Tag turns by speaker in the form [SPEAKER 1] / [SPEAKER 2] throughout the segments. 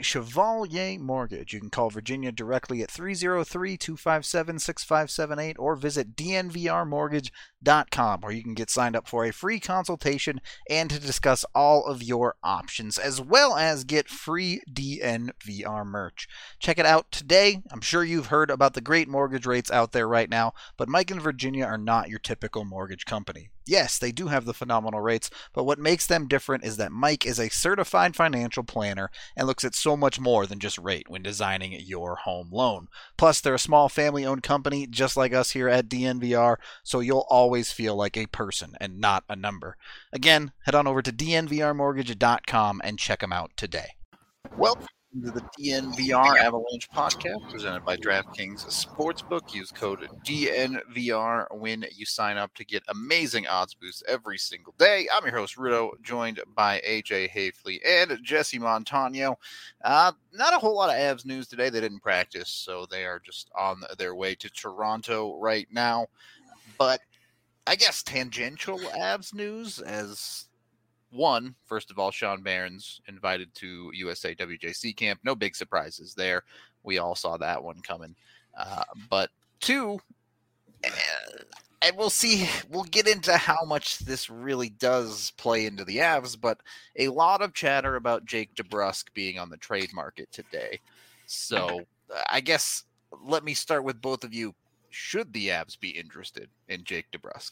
[SPEAKER 1] Chevalier Mortgage. You can call Virginia directly at 303-257-6578 or visit dnvrmortgage.com, where you can get signed up for a free consultation and to discuss all of your options, as well as get free DNVR merch. Check it out today. I'm sure you've heard about the great mortgage rates out there right now, but Mike and Virginia are not your typical mortgage company. Yes, they do have the phenomenal rates, but what makes them different is that Mike is a certified financial planner and looks at so much more than just rate when designing your home loan. Plus, they're a small family-owned company just like us here at DNVR, so you'll always feel like a person and not a number. Again, head on over to dnvrmortgage.com and check them out today. Welcome to the DNVR Avalanche podcast presented by DraftKings Sportsbook. Use code DNVR when you sign up to get amazing odds boosts every single day. I'm your host, Rudo, joined by AJ Hafley and Jesse Montano. Not a whole lot of Avs news today. They didn't practice, so they are just on their way to Toronto right now. But I guess tangential Avs news as... One, first of all, Sean Barron's invited to USA WJC camp. No big surprises there. We all saw that one coming. But two, and we'll see, we'll get into how much this really does play into the Avs, but a lot of chatter about Jake DeBrusk being on the trade market today. So I guess let me start with both of you. Should the Avs be interested in Jake DeBrusk?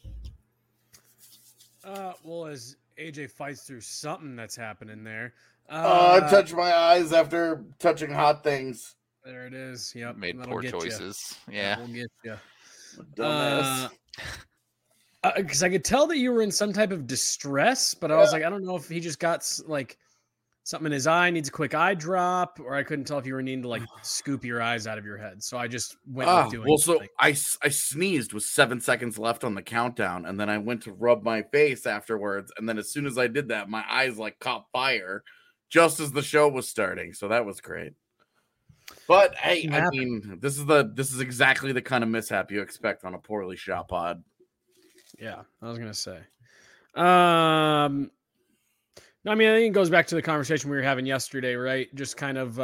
[SPEAKER 2] Well, as AJ fights through something that's happening there.
[SPEAKER 3] I touched my eyes after touching hot things.
[SPEAKER 2] There it is. Yep.
[SPEAKER 1] Made poor choices. Yeah.
[SPEAKER 2] We'll get you.
[SPEAKER 3] Dumbass.
[SPEAKER 2] Because I could tell that you were in some type of distress, but I was like, I don't know if he just got like something in his eye, needs a quick eye drop, or I couldn't tell if you were needing to like scoop your eyes out of your head. So I just went with doing something.
[SPEAKER 3] I sneezed with 7 seconds left on the countdown, and then I went to rub my face afterwards, and then as soon as I did that, my eyes like caught fire just as the show was starting. So that was great. But hey, I mean, this is exactly the kind of mishap you expect on a poorly shot pod.
[SPEAKER 2] Yeah, I was gonna say. I mean, I think it goes back to the conversation we were having yesterday, right? Just kind of,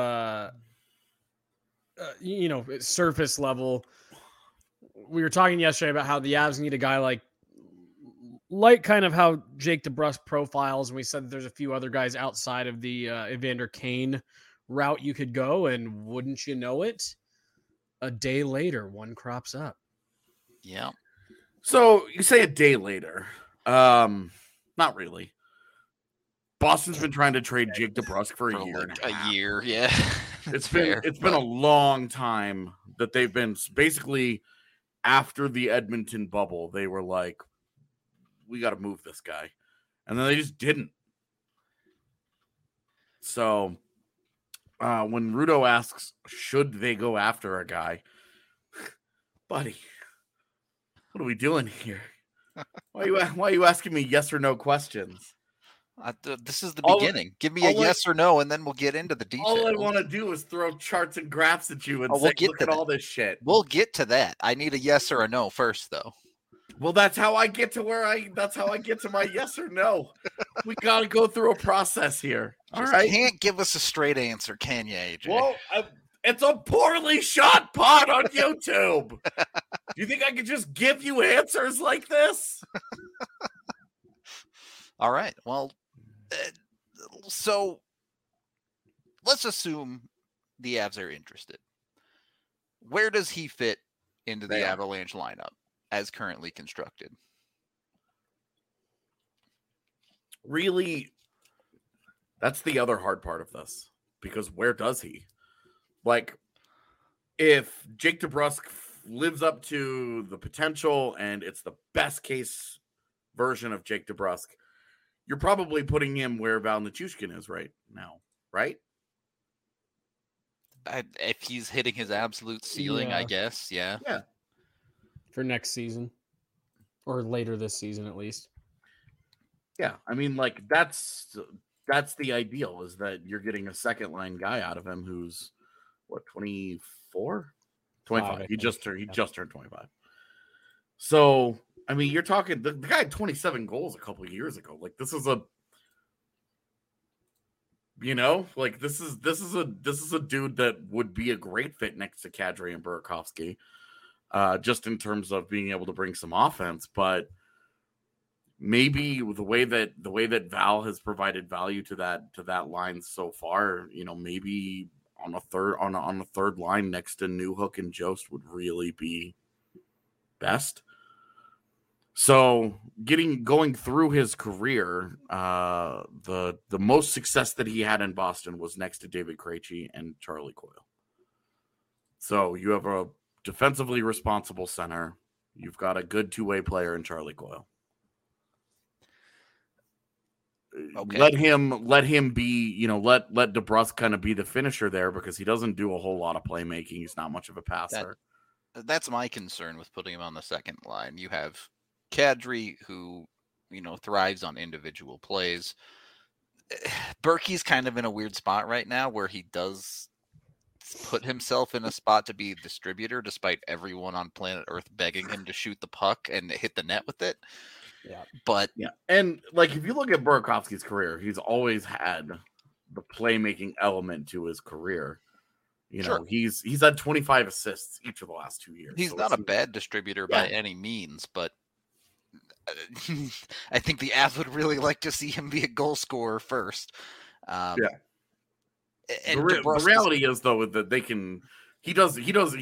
[SPEAKER 2] surface level. We were talking yesterday about how the Avs need a guy like kind of how Jake DeBrusk profiles, and we said that there's a few other guys outside of the Evander Kane route you could go, and wouldn't you know it, a day later, one crops up.
[SPEAKER 1] Yeah.
[SPEAKER 3] So you say a day later. Not really. Boston's been trying to trade Jake DeBrusk for a year.
[SPEAKER 1] A year, yeah.
[SPEAKER 3] It's been a long time that they've been basically after the Edmonton bubble. They were like, we got to move this guy, and then they just didn't. So when Rudo asks, should they go after a guy, buddy, what are we doing here? Why are you asking me yes or no questions?
[SPEAKER 1] This is the beginning. Give me a yes or no, and then we'll get into the details.
[SPEAKER 3] All I want to do is throw charts and graphs at you and say, look at all this shit.
[SPEAKER 1] We'll get to that. I need a yes or a no first, though.
[SPEAKER 3] Well, that's how I get to that's how I get to my yes or no. We got to go through a process here. All right.
[SPEAKER 1] You can't give us a straight answer, can you, AJ?
[SPEAKER 3] Well, it's a poorly shot pod on YouTube. Do you think I could just give you answers like this?
[SPEAKER 1] All right. Well, so let's assume the Avs are interested. Where does he fit into the Avalanche lineup as currently constructed?
[SPEAKER 3] Really, that's the other hard part of this, because where does he? Like, if Jake DeBrusk lives up to the potential and it's the best case version of Jake DeBrusk, you're probably putting him where Val Nichushkin is right now, right?
[SPEAKER 1] If he's hitting his absolute ceiling, I guess, yeah.
[SPEAKER 3] Yeah.
[SPEAKER 2] For next season. Or later this season, at least.
[SPEAKER 3] Yeah, I mean, like, that's the ideal, is that you're getting a second-line guy out of him who's, what, 24? 25. He just turned 25. So, I mean, you're talking the guy had 27 goals a couple of years ago. Like, this is You know, like this is a dude that would be a great fit next to Kadri and Burakovsky, just in terms of being able to bring some offense. But maybe the way that Val has provided value to that line so far, you know, maybe on a third line next to Newhook and Jost would really be best. So going through his career, the most success that he had in Boston was next to David Krejci and Charlie Coyle. So you have a defensively responsible center. You've got a good two-way player in Charlie Coyle. Okay. Let him be, you know, let DeBrusk kind of be the finisher there, because he doesn't do a whole lot of playmaking. He's not much of a passer.
[SPEAKER 4] That's my concern with putting him on the second line. You have Kadri, who, you know, thrives on individual plays. Berkey's kind of in a weird spot right now where he does put himself in a spot to be a distributor, despite everyone on planet Earth begging him to shoot the puck and hit the net with it.
[SPEAKER 2] Yeah.
[SPEAKER 4] But
[SPEAKER 3] yeah. And like, if you look at Burakovsky's career, he's always had the playmaking element to his career. You know, he's had 25 assists each of the last 2 years.
[SPEAKER 4] He's not a bad distributor by any means, but I think the Avs would really like to see him be a goal scorer first.
[SPEAKER 3] And the reality is, though, that Burakovsky does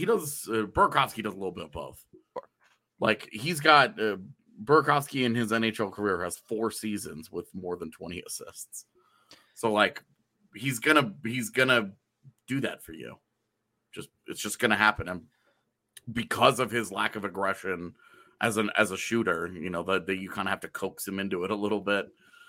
[SPEAKER 3] a little bit of both. Like, he's got Burakovsky in his NHL career has 4 seasons with more than 20 assists. So, like, he's gonna do that for you. It's just gonna happen, and because of his lack of aggression as a shooter, you know, that you kind of have to coax him into it a little bit.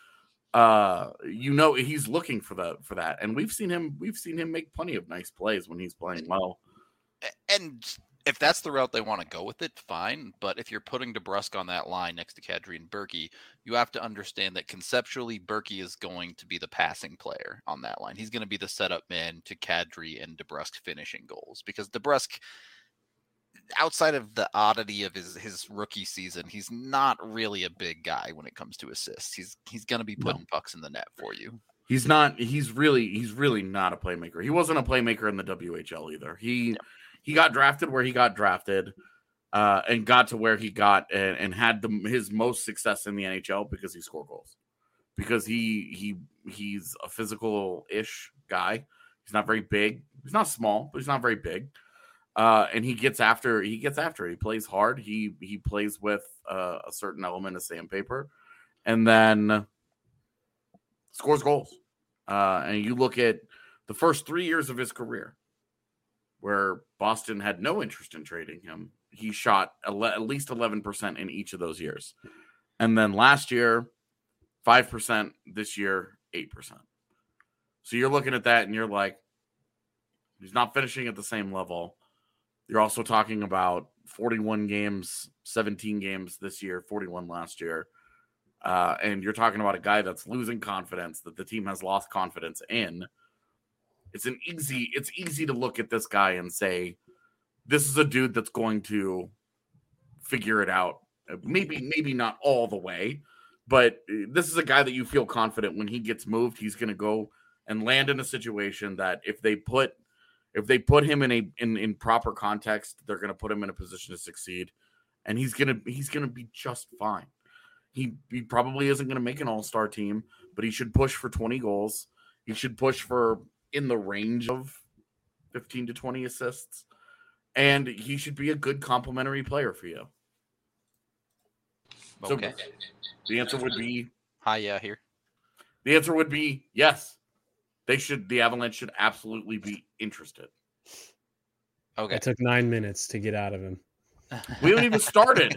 [SPEAKER 3] You know, he's looking for that, and we've seen him make plenty of nice plays when he's playing well.
[SPEAKER 4] And if that's the route they want to go with it, fine. But if you're putting DeBrusk on that line next to Kadri and Berkey, you have to understand that conceptually Berkey is going to be the passing player on that line. He's going to be the setup man to Kadri and DeBrusk finishing goals, because DeBrusk, outside of the oddity of his rookie season, he's not really a big guy when it comes to assists. He's going to be putting pucks in the net for you.
[SPEAKER 3] He's not. He's really not a playmaker. He wasn't a playmaker in the WHL either. He got drafted where he got drafted, and got to where he got, and had his most success in the NHL because he scored goals. Because he's a physical-ish guy. He's not very big. He's not small, but he's not very big. And he gets after. He plays hard. He plays with a certain element of sandpaper, and then scores goals. And you look at the first 3 years of his career, where Boston had no interest in trading him. He shot at least 11% in each of those years. And then last year, 5%. This year, 8%. So you're looking at that and you're like, he's not finishing at the same level. You're also talking about 41 games, 17 games this year, 41 last year. And you're talking about a guy that's losing confidence, that the team has lost confidence in. It's easy to look at this guy and say, this is a dude that's going to figure it out. Maybe not all the way, but this is a guy that you feel confident when he gets moved, he's going to go and land in a situation that if they put him in proper context, they're going to put him in a position to succeed, and he's going to be just fine. He probably isn't going to make an all-star team, but he should push for 20 goals. He should push for in the range of 15 to 20 assists, and he should be a good complementary player for you.
[SPEAKER 4] Okay.
[SPEAKER 3] So the answer would be
[SPEAKER 4] here.
[SPEAKER 3] The answer would be yes. The Avalanche should absolutely be interested.
[SPEAKER 2] Okay. It took 9 minutes to get out of him.
[SPEAKER 3] We haven't even started.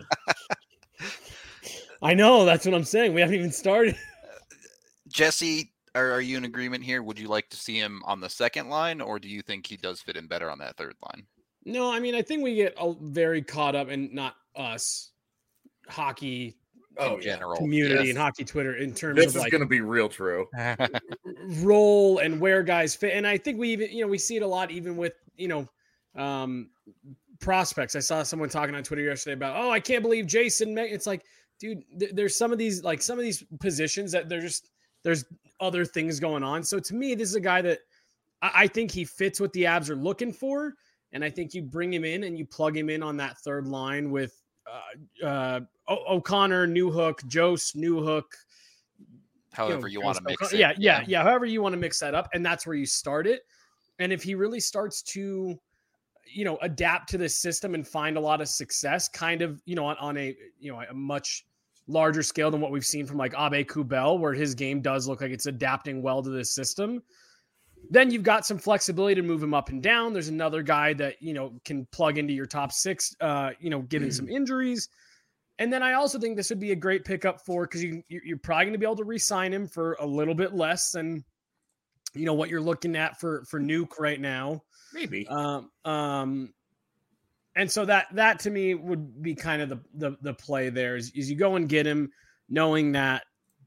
[SPEAKER 2] I know, that's what I'm saying. We haven't even started.
[SPEAKER 4] Jesse, are you in agreement here? Would you like to see him on the second line, or do you think he does fit in better on that third line?
[SPEAKER 2] No, I mean, I think we get very caught up, and not us, hockey
[SPEAKER 4] in general
[SPEAKER 2] community and hockey Twitter in terms
[SPEAKER 3] this
[SPEAKER 2] of
[SPEAKER 3] is going to be real true
[SPEAKER 2] role and where guys fit. And I think we even, we see it a lot, even with, prospects. I saw someone talking on Twitter yesterday about, I can't believe Jason. It's like, dude, there's some of these positions that there's other things going on. So to me, this is a guy that I think he fits what the Avs are looking for. And I think you bring him in and you plug him in on that third line with O'Connor, Newhook, Jost, Newhook.
[SPEAKER 4] However you want to mix it.
[SPEAKER 2] Yeah. However you want to mix that up. And that's where you start it. And if he really starts to, adapt to this system and find a lot of success kind of, on a much larger scale than what we've seen from like Abe Kubel, where his game does look like it's adapting well to this system, then you've got some flexibility to move him up and down. There's another guy that, can plug into your top six, given some injuries. And then I also think this would be a great pickup because you're probably going to be able to re-sign him for a little bit less than, what you're looking at for Nuke right now.
[SPEAKER 3] Maybe.
[SPEAKER 2] And so that to me would be kind of the play there is you go and get him knowing that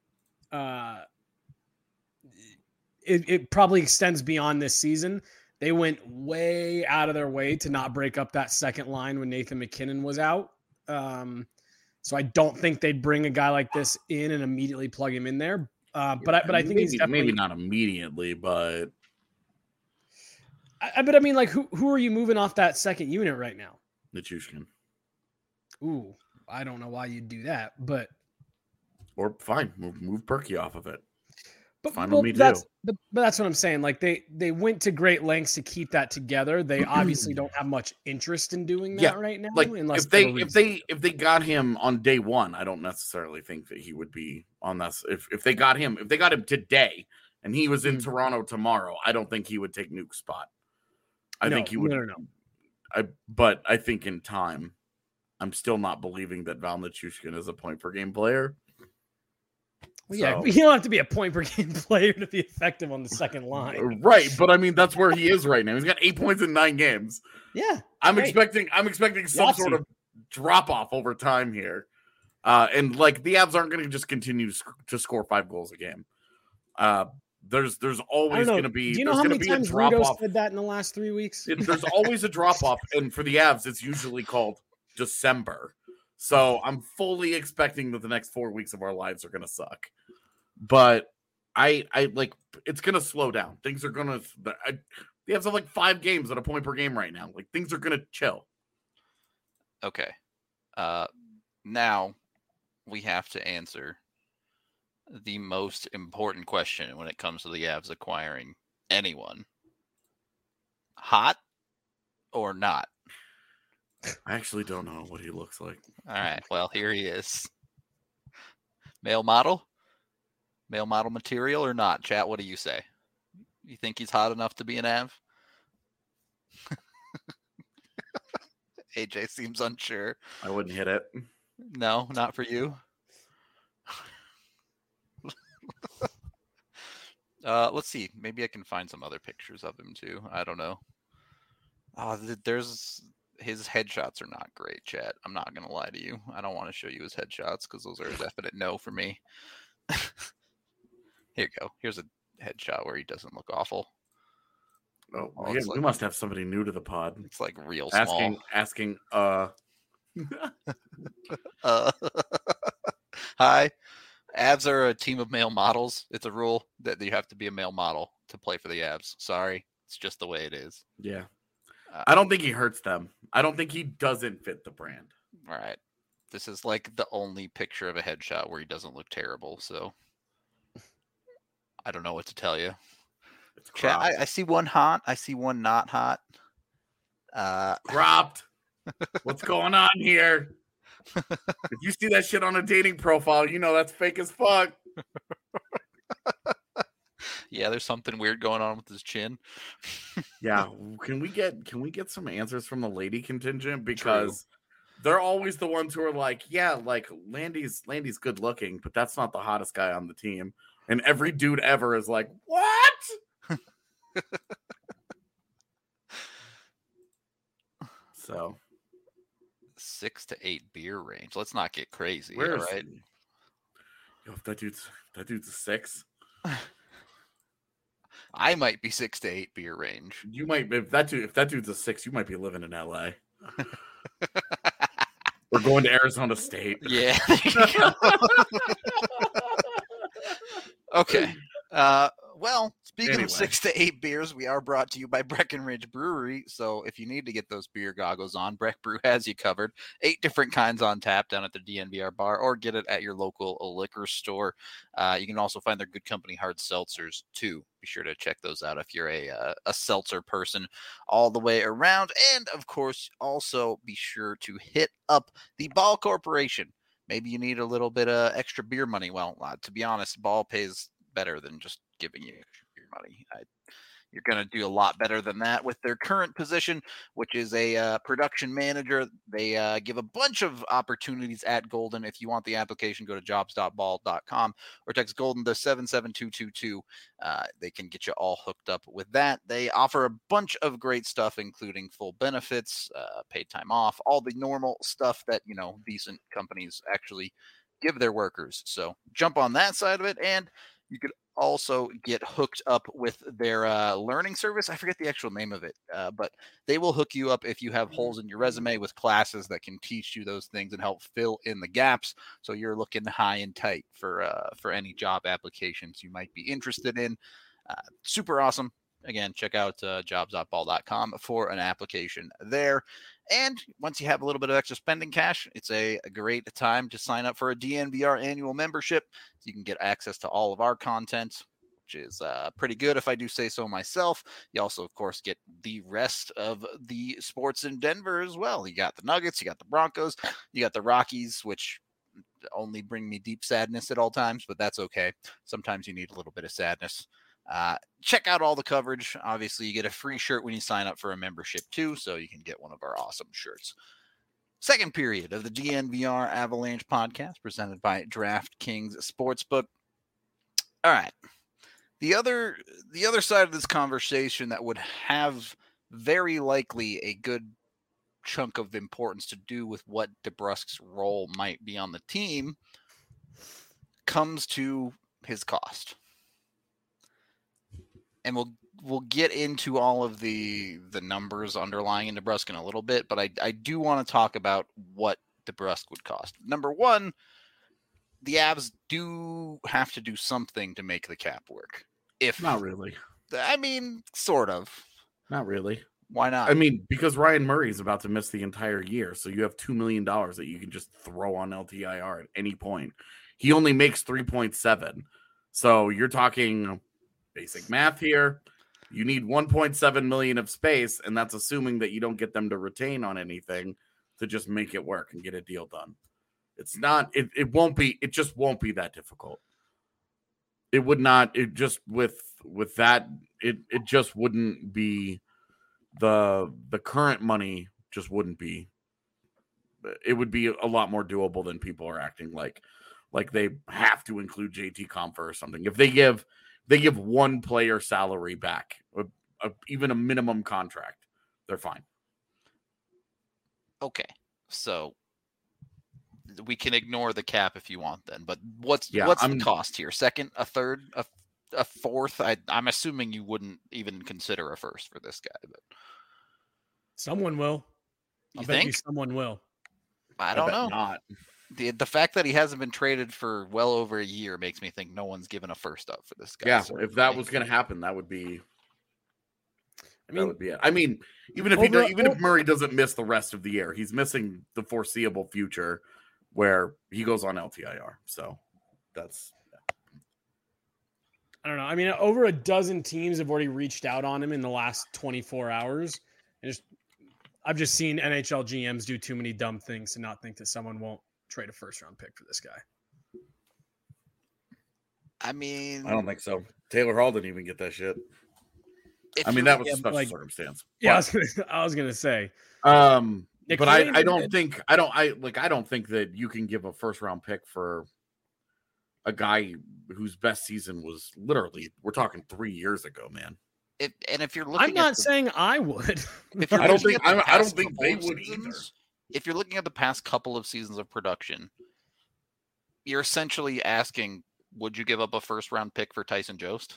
[SPEAKER 2] it probably extends beyond this season. They went way out of their way to not break up that second line when Nathan McKinnon was out. So I don't think they'd bring a guy like this in and immediately plug him in there. But I think he's definitely
[SPEAKER 3] maybe not immediately, but
[SPEAKER 2] I mean, like who are you moving off that second unit right now?
[SPEAKER 3] Nichushkin.
[SPEAKER 2] Ooh, I don't know why you'd do that, but
[SPEAKER 3] or fine, move Berkey off of it.
[SPEAKER 2] But,
[SPEAKER 3] fine
[SPEAKER 2] well,
[SPEAKER 3] with me
[SPEAKER 2] that's,
[SPEAKER 3] too.
[SPEAKER 2] But that's what I'm saying. Like they went to great lengths to keep that together. They obviously don't have much interest in doing that right now.
[SPEAKER 3] Like
[SPEAKER 2] unless
[SPEAKER 3] if they got him on day one, I don't necessarily think that he would be on this. If they got him today and he was in Toronto tomorrow, I don't think he would take Nuke's spot. I think he would.
[SPEAKER 2] No.
[SPEAKER 3] But I think in time, I'm still not believing that Val Nichushkin is a point per game player.
[SPEAKER 2] Well, yeah, you don't have to be a point per game player to be effective on the second line.
[SPEAKER 3] Right, but I mean that's where he is right now. He's got 8 points in 9 games.
[SPEAKER 2] Yeah.
[SPEAKER 3] I'm expecting some sort of drop off over time here. And like the Avs aren't going to just continue to score 5 goals a game. There's always going to be.
[SPEAKER 2] Do you know how many times Rudo said that in the last 3 weeks?
[SPEAKER 3] There's always a drop off, and for the Avs, it's usually called December. So I'm fully expecting that the next 4 weeks of our lives are going to suck. But I like it's going to slow down. Things are going to. The Avs have like 5 games at a point per game right now. Like things are going to chill.
[SPEAKER 4] Okay. Now we have to answer the most important question when it comes to the Avs acquiring anyone. Hot or not?
[SPEAKER 3] I actually don't know what he looks like.
[SPEAKER 4] All right. Well, here he is. Male model? Male model material or not? Chat, what do you say? You think he's hot enough to be an Av? AJ seems unsure.
[SPEAKER 3] I wouldn't hit it.
[SPEAKER 4] No, not for you. Let's see. Maybe I can find some other pictures of him too. I don't know. There's his headshots are not great, chat. I'm not gonna lie to you. I don't want to show you his headshots because those are a definite no for me. Here you go. Here's a headshot where he doesn't look awful.
[SPEAKER 3] Oh, we must have somebody new to the pod.
[SPEAKER 4] It's like real small.
[SPEAKER 3] Asking.
[SPEAKER 4] Hi. Avs are a team of male models. It's a rule that you have to be a male model to play for the Avs. Sorry. It's just the way it is.
[SPEAKER 3] Yeah. I don't think he hurts them. I don't think he doesn't fit the brand.
[SPEAKER 4] All right. This is like the only picture of a headshot where he doesn't look terrible. So I don't know what to tell you. Chat, I see one hot. I see one not hot.
[SPEAKER 3] Cropped. What's going on here? If you see that shit on a dating profile, you know that's fake as fuck.
[SPEAKER 4] Yeah, there's something weird going on with his chin.
[SPEAKER 3] Yeah, can we get some answers from the lady contingent because they're always the ones who are like, yeah, like Landy's good looking, but that's not the hottest guy on the team. And every dude ever is like, what? So
[SPEAKER 4] 6 to 8 beer range. Let's not get crazy.
[SPEAKER 3] Where
[SPEAKER 4] all
[SPEAKER 3] is
[SPEAKER 4] right.
[SPEAKER 3] Yo, if that dude's a 6.
[SPEAKER 4] I might be 6 to 8 beer range.
[SPEAKER 3] You might if that dude's a 6, you might be living in LA. We're going to Arizona State.
[SPEAKER 4] Yeah. Okay. Well, speaking
[SPEAKER 3] Anyway.
[SPEAKER 4] of 6 to 8 beers, we are brought to you by Breckenridge Brewery. So if you need to get those beer goggles on, Breck Brew has you covered. 8 different kinds on tap down at the DNVR bar, or get it at your local liquor store. You can also find their Good Company hard seltzers too. Be sure to check those out if you're a seltzer person all the way around. And of course, also be sure to hit up the Ball Corporation. Maybe you need a little bit of extra beer money. Well, to be honest, Ball pays better than just giving you your money. You're going to do a lot better than that with their current position, which is a production manager. They give a bunch of opportunities at Golden. If you want the application, go to jobs.ball.com or text Golden to 77222. They can get you all hooked up with that. They offer a bunch of great stuff, including full benefits, paid time off, all the normal stuff that, decent companies actually give their workers. So jump on that side of it, and you could also get hooked up with their learning service. I forget the actual name of it, but they will hook you up if you have holes in your resume with classes that can teach you those things and help fill in the gaps. So you're looking high and tight for any job applications you might be interested in. Super awesome. Again, check out jobs.ball.com for an application there. And once you have a little bit of extra spending cash, it's a great time to sign up for a DNVR annual membership. So you can get access to all of our content, which is pretty good if I do say so myself. You also, of course, get the rest of the sports in Denver as well. You got the Nuggets, you got the Broncos, you got the Rockies, which only bring me deep sadness at all times, but that's okay. Sometimes you need a little bit of sadness. Check out all the coverage. Obviously, you get a free shirt when you sign up for a membership too, so you can get one of our awesome shirts. Second period of the DNVR Avalanche podcast presented by DraftKings Sportsbook. All right. The other side of this conversation that would have very likely a good chunk of importance to do with what DeBrusk's role might be on the team comes to his cost. And we'll get into all of the numbers underlying in DeBrusk in a little bit, but I do want to talk about what DeBrusk would cost. Number one, the Avs do have to do something to make the cap work.
[SPEAKER 3] Not really.
[SPEAKER 4] I mean, sort of.
[SPEAKER 3] Not really.
[SPEAKER 4] Why not?
[SPEAKER 3] I mean, because Ryan Murray is about to miss the entire year, so you have $2 million that you can just throw on LTIR at any point. He only makes 3.7, so you're talking basic math here. You need 1.7 million of space, and that's assuming that you don't get them to retain on anything to just make it work and get a deal done. It's not. It won't be. It just won't be that difficult. It would not. It just with that. It just wouldn't be the current money. Just wouldn't be. It would be a lot more doable than people are acting like they have to include JT Compher or something. If they give one player salary back, even a minimum contract, they're fine.
[SPEAKER 4] Okay, so we can ignore the cap if you want then, but what's the cost here? Second, a third, a fourth? I'm assuming you wouldn't even consider a first for this guy, but
[SPEAKER 2] someone will.
[SPEAKER 4] You
[SPEAKER 2] bet
[SPEAKER 4] think?
[SPEAKER 2] you someone will.
[SPEAKER 4] I don't know.
[SPEAKER 3] Not.
[SPEAKER 4] The fact that he hasn't been traded for well over a year makes me think no one's given a first up for this guy.
[SPEAKER 3] Yeah,
[SPEAKER 4] certainly.
[SPEAKER 3] if that was going to happen, that would be.
[SPEAKER 2] That
[SPEAKER 3] would be it. I mean, even if Murray doesn't miss the rest of the year, he's missing the foreseeable future, where he goes on LTIR. So that's.
[SPEAKER 2] I don't know. I mean, over a dozen teams have already reached out on him in the last 24 hours. I've just seen NHL GMs do too many dumb things to not think that someone won't trade a first-round pick for this guy.
[SPEAKER 4] I mean,
[SPEAKER 3] I don't think so. Taylor Hall didn't even get that shit. I mean, that was a special circumstance.
[SPEAKER 2] Yeah, I was gonna say.
[SPEAKER 3] But I don't think that you can give a first-round pick for a guy whose best season was literally, we're talking 3 years ago, man.
[SPEAKER 4] If you're looking,
[SPEAKER 2] I'm not saying I would.
[SPEAKER 3] I don't think they would either.
[SPEAKER 4] If you're looking at the past couple of seasons of production, you're essentially asking, would you give up a first-round pick for Tyson Jost?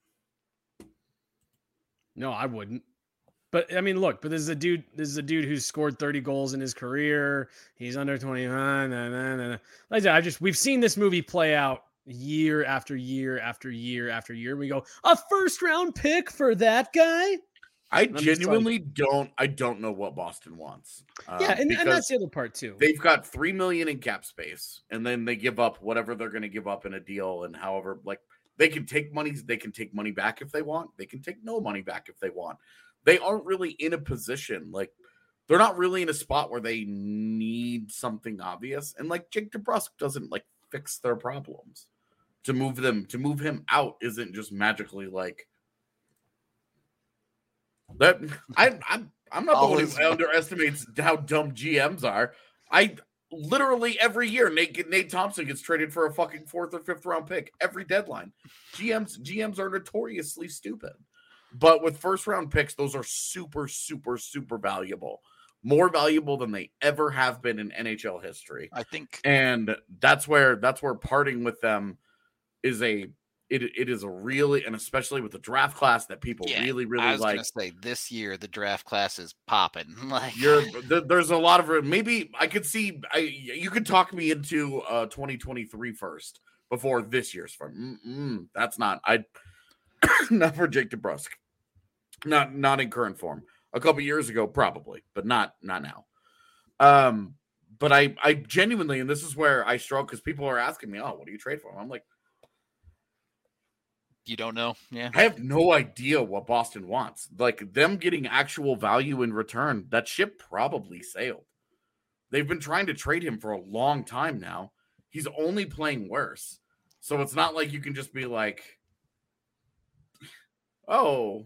[SPEAKER 4] No,
[SPEAKER 2] I wouldn't. But I mean, look. But this is a dude who's scored 30 goals in his career. He's under 29. Like I said, we've seen this movie play out year after year after year after year. We go, a first round pick for that guy.
[SPEAKER 3] I
[SPEAKER 2] I'm just
[SPEAKER 3] genuinely don't know what Boston wants.
[SPEAKER 2] Yeah, and
[SPEAKER 3] because
[SPEAKER 2] that's the other part too.
[SPEAKER 3] they've got $3 million in cap space, and then they give up whatever they're going to give up in a deal, and however, like they can take money back if they want. They can take no money back if they want. They aren't really in a position like they're not really in a spot where they need something obvious, and like Jake DeBrusk doesn't like fix their problems. To move him out isn't just magically like that. I'm not the one who underestimates how dumb GMs are. I literally every year Nate Thompson gets traded for a fucking 4th or 5th round pick every deadline. GMs are notoriously stupid. But with first round picks, those are super, super, super valuable. More valuable than they ever have been in NHL history.
[SPEAKER 4] I think,
[SPEAKER 3] and that's where parting with them is it is a really, and especially with the draft class that people really
[SPEAKER 4] I was
[SPEAKER 3] like.
[SPEAKER 4] gonna say this year the draft class is popping. Like
[SPEAKER 3] there's a lot of maybe I could see you could talk me into 2023 first before this year's first. That's not not for Jake DeBrusk. Not in current form. A couple years ago, probably, but not now. But I genuinely, and this is where I struggle because people are asking me, "Oh, what do you trade for?" I'm like,
[SPEAKER 4] you don't know. Yeah,
[SPEAKER 3] I have no idea what Boston wants. Like them getting actual value in return, that ship probably sailed. They've been trying to trade him for a long time now. He's only playing worse, so it's not like you can just be like, "Oh,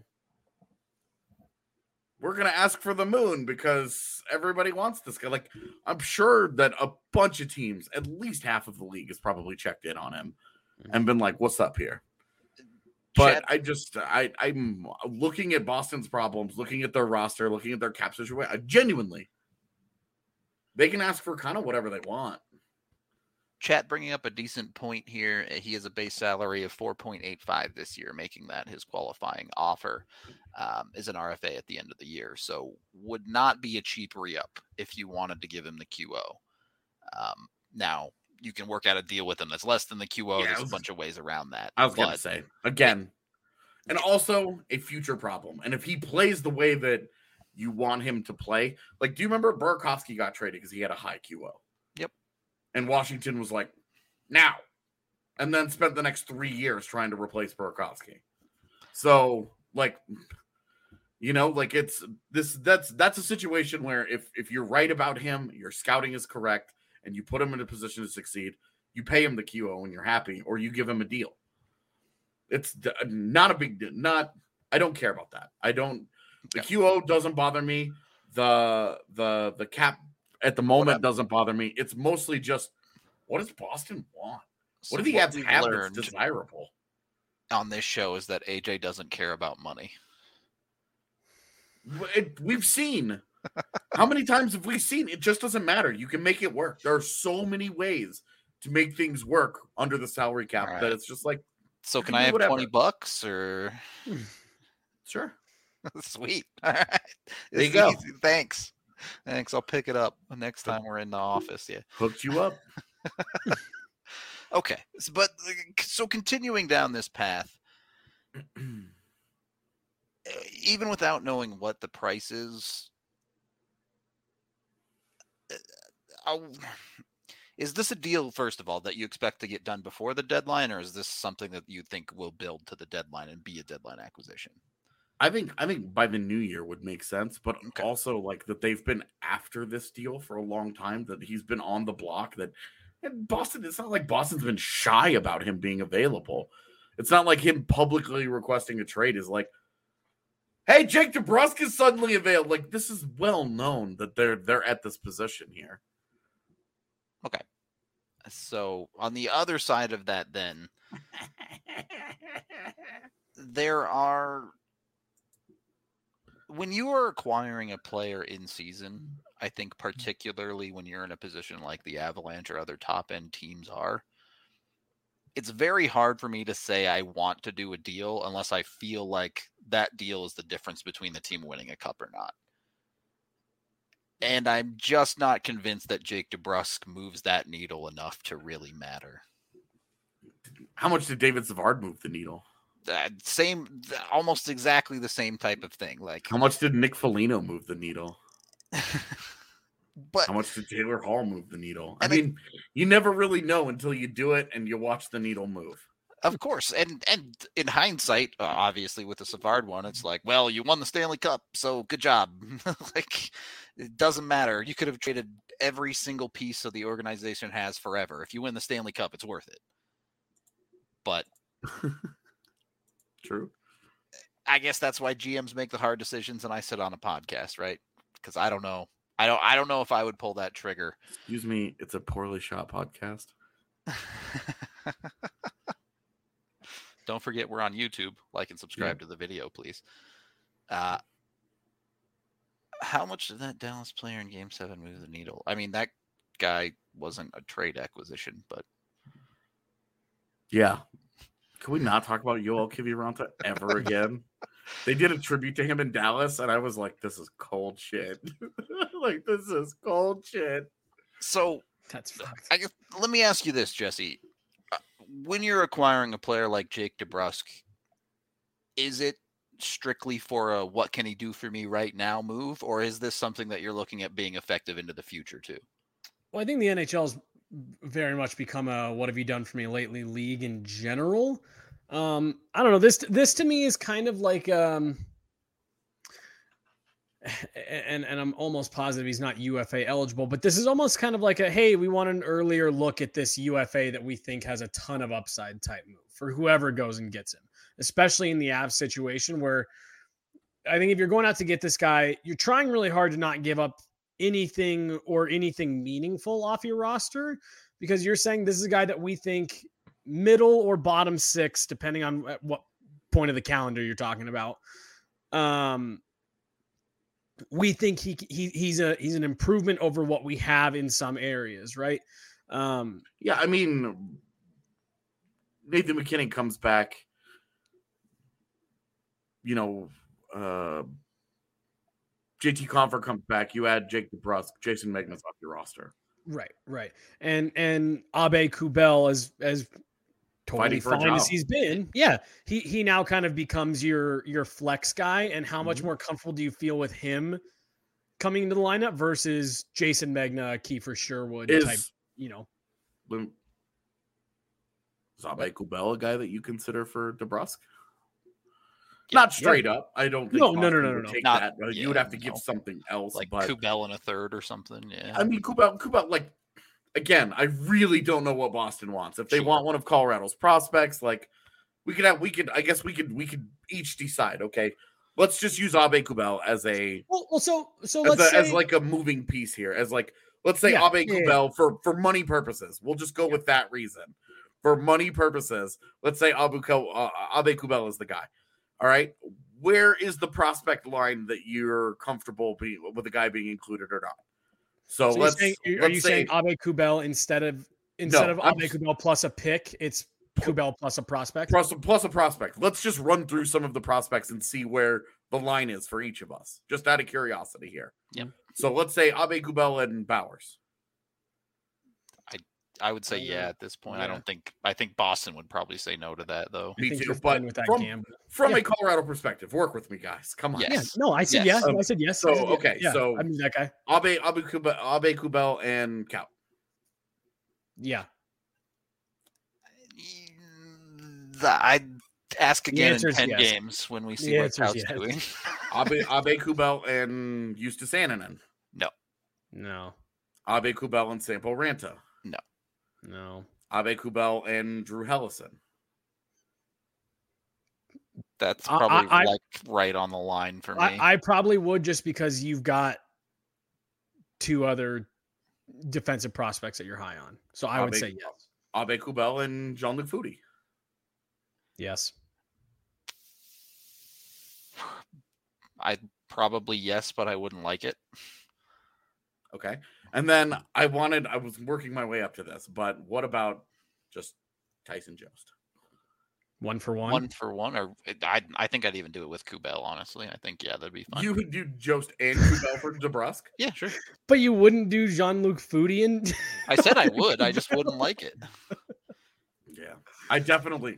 [SPEAKER 3] we're going to ask for the moon because everybody wants this guy." Like, I'm sure that a bunch of teams, at least half of the league, has probably checked in on him and been like, "What's up here?" But I'm looking at Boston's problems, looking at their roster, looking at their cap situation. Genuinely, they can ask for kind of whatever they want.
[SPEAKER 4] Chat bringing up a decent point here. He has a base salary of 4.85 this year, making that his qualifying offer is an RFA at the end of the year. So would not be a cheap re-up if you wanted to give him the QO. Now, you can work out a deal with him that's less than the QO. There's a bunch of ways around that.
[SPEAKER 3] I was going to say, again, and also a future problem. And if he plays the way that you want him to play, like, do you remember Burakovsky got traded because he had a high QO?
[SPEAKER 4] Yep.
[SPEAKER 3] And Washington was like, now. And then spent the next 3 years trying to replace Burakovsky. So, like, you know, like it's this, that's a situation where if you're right about him, your scouting is correct, and you put him in a position to succeed, you pay him the QO when you're happy, or you give him a deal. It's not a big deal. I don't care about that. The QO doesn't bother me. The cap at the moment doesn't bother me. It's mostly just, what does Boston want? What do they have that's desirable?
[SPEAKER 4] On this show is that AJ doesn't care about money.
[SPEAKER 3] We've seen. How many times have we seen? It just doesn't matter. You can make it work. There are so many ways to make things work under the salary cap that it's just like.
[SPEAKER 4] So can I have $20 or?
[SPEAKER 3] Sure.
[SPEAKER 4] Sweet. All right.
[SPEAKER 3] There you go.
[SPEAKER 4] Easy. Thanks. I'll pick it up next time we're in the office. Yeah.
[SPEAKER 3] Hooked you up.
[SPEAKER 4] Okay. So continuing down this path, even without knowing what the price is, is this a deal, first of all, that you expect to get done before the deadline, or is this something that you think will build to the deadline and be a deadline acquisition?
[SPEAKER 3] I think by the new year would make sense, but also like that they've been after this deal for a long time, that he's been on the block, and Boston, it's not like Boston's been shy about him being available. It's not like him publicly requesting a trade is like, hey, Jake DeBrusk is suddenly available. Like, this is well known that they're at this position here.
[SPEAKER 4] Okay. So on the other side of that, then when you are acquiring a player in season, I think particularly when you're in a position like the Avalanche or other top end teams are, it's very hard for me to say I want to do a deal unless I feel like that deal is the difference between the team winning a cup or not. And I'm just not convinced that Jake DeBrusk moves that needle enough to really matter.
[SPEAKER 3] How much did David Savard move the needle?
[SPEAKER 1] Almost exactly the same type of thing. Like,
[SPEAKER 3] How much did Nick Foligno move the needle?
[SPEAKER 1] but
[SPEAKER 3] How much did Taylor Hall move the needle? I mean, you never really know until you do it and you watch the needle move.
[SPEAKER 1] Of course, and in hindsight, obviously with the Savard one, it's like, well, you won the Stanley Cup, so good job. Like, it doesn't matter. You could have traded every single piece of the organization has forever. If you win the Stanley Cup, it's worth it. But
[SPEAKER 3] True.
[SPEAKER 1] I guess that's why GMs make the hard decisions, and I sit on a podcast, right? Because I don't know. I don't know if I would pull that trigger.
[SPEAKER 3] Excuse me, it's a poorly shot podcast.
[SPEAKER 1] Don't forget we're on YouTube. Like and subscribe to the video, please. How much did that Dallas player in Game 7 move the needle? I mean, that guy wasn't a trade acquisition, but...
[SPEAKER 3] Yeah. Can we not talk about Yoel Kiviranta ever again? They did a tribute to him in Dallas, and I was like, this is cold shit. Like, this is cold shit.
[SPEAKER 1] So,
[SPEAKER 2] That's fucked.
[SPEAKER 1] I guess, let me ask you this, Jesse. When you're acquiring a player like Jake DeBrusk, is it strictly for a what can he do for me right now move, or is this something that you're looking at being effective into the future too?
[SPEAKER 2] Well, I think the NHL's very much become a what have you done for me lately league in general. I don't know. This to me is kind of like and I'm almost positive he's not UFA eligible, but this is almost kind of like a, hey, we want an earlier look at this UFA that we think has a ton of upside type move for whoever goes and gets him, especially in the Avs situation where I think if you're going out to get this guy, you're trying really hard to not give up anything meaningful off your roster, because you're saying this is a guy that we think middle or bottom six, depending on at what point of the calendar you're talking about. We think he's an improvement over what we have in some areas, right?
[SPEAKER 3] Yeah, I mean, Nathan McKinnon comes back, you know, JT Compher comes back, you add Jake DeBrusk, Jason Megnas off your roster.
[SPEAKER 2] Right. And Abe Kubel as totally fine as he's been. Yeah. He now kind of becomes your flex guy. And how much more comfortable do you feel with him coming into the lineup versus Jason Megna, Kiefer Sherwood type, you know?
[SPEAKER 3] Is Abe Kubel a guy that you consider for DeBrusk? Not straight up. I don't think.
[SPEAKER 2] No.
[SPEAKER 3] Take
[SPEAKER 1] Not,
[SPEAKER 3] that. You would have to give something else,
[SPEAKER 1] like
[SPEAKER 3] but
[SPEAKER 1] Kubel in a third or something. Yeah.
[SPEAKER 3] I mean, Kubel. Like, again, I really don't know what Boston wants. If they want one of Colorado's prospects, like we could. I guess we could each decide. Okay, let's just use Abe Kubel as a as like a moving piece here. As like, let's say Abe Kubel for money purposes. We'll just go with that reason. For money purposes, let's say Abe Kubel is the guy. All right, where is the prospect line that you're comfortable with the guy being included or not? So let's.
[SPEAKER 2] Are you saying Abe Kubel instead of Abe Kubel plus a pick? It's Kubel plus a prospect.
[SPEAKER 3] Plus a prospect. Let's just run through some of the prospects and see where the line is for each of us, just out of curiosity here.
[SPEAKER 1] Yep.
[SPEAKER 3] So let's say Abe Kubel and Bowers.
[SPEAKER 1] I would say at this point. Yeah. I think Boston would probably say no to that though.
[SPEAKER 3] Me too. But from a Colorado perspective, work with me, guys. Come on.
[SPEAKER 1] Yes.
[SPEAKER 2] Yeah, no, I said yes. I said yes.
[SPEAKER 3] So okay, so
[SPEAKER 2] I mean that guy.
[SPEAKER 3] Abe Kubel and Kaut.
[SPEAKER 2] Yeah.
[SPEAKER 1] I'd ask again in 10 games when we see what Kaut's doing.
[SPEAKER 3] Abe Kubel and Justus Annunen.
[SPEAKER 2] No.
[SPEAKER 3] Abe Kubel and Sampo Ranta.
[SPEAKER 2] No.
[SPEAKER 3] Abe Kubel and Drew Hellison.
[SPEAKER 1] That's probably right on the line for me.
[SPEAKER 2] I probably would, just because you've got two other defensive prospects that you're high on. So I would say yes.
[SPEAKER 3] Abe Kubel and Jean-Luc Foudy.
[SPEAKER 2] Yes.
[SPEAKER 1] I'd probably yes, but I wouldn't like it.
[SPEAKER 3] Okay. And then I was working my way up to this, but what about just Tyson Jost?
[SPEAKER 2] 1 for 1?
[SPEAKER 1] 1 for 1? Or I think I'd even do it with Kubel, honestly. I think, that'd be fun.
[SPEAKER 3] You would do Jost and Kubel for DeBrusk?
[SPEAKER 1] Yeah, sure.
[SPEAKER 2] But you wouldn't do Jean-Luc Foudy and...
[SPEAKER 1] I said I would. I just wouldn't like it.
[SPEAKER 3] Yeah. I definitely.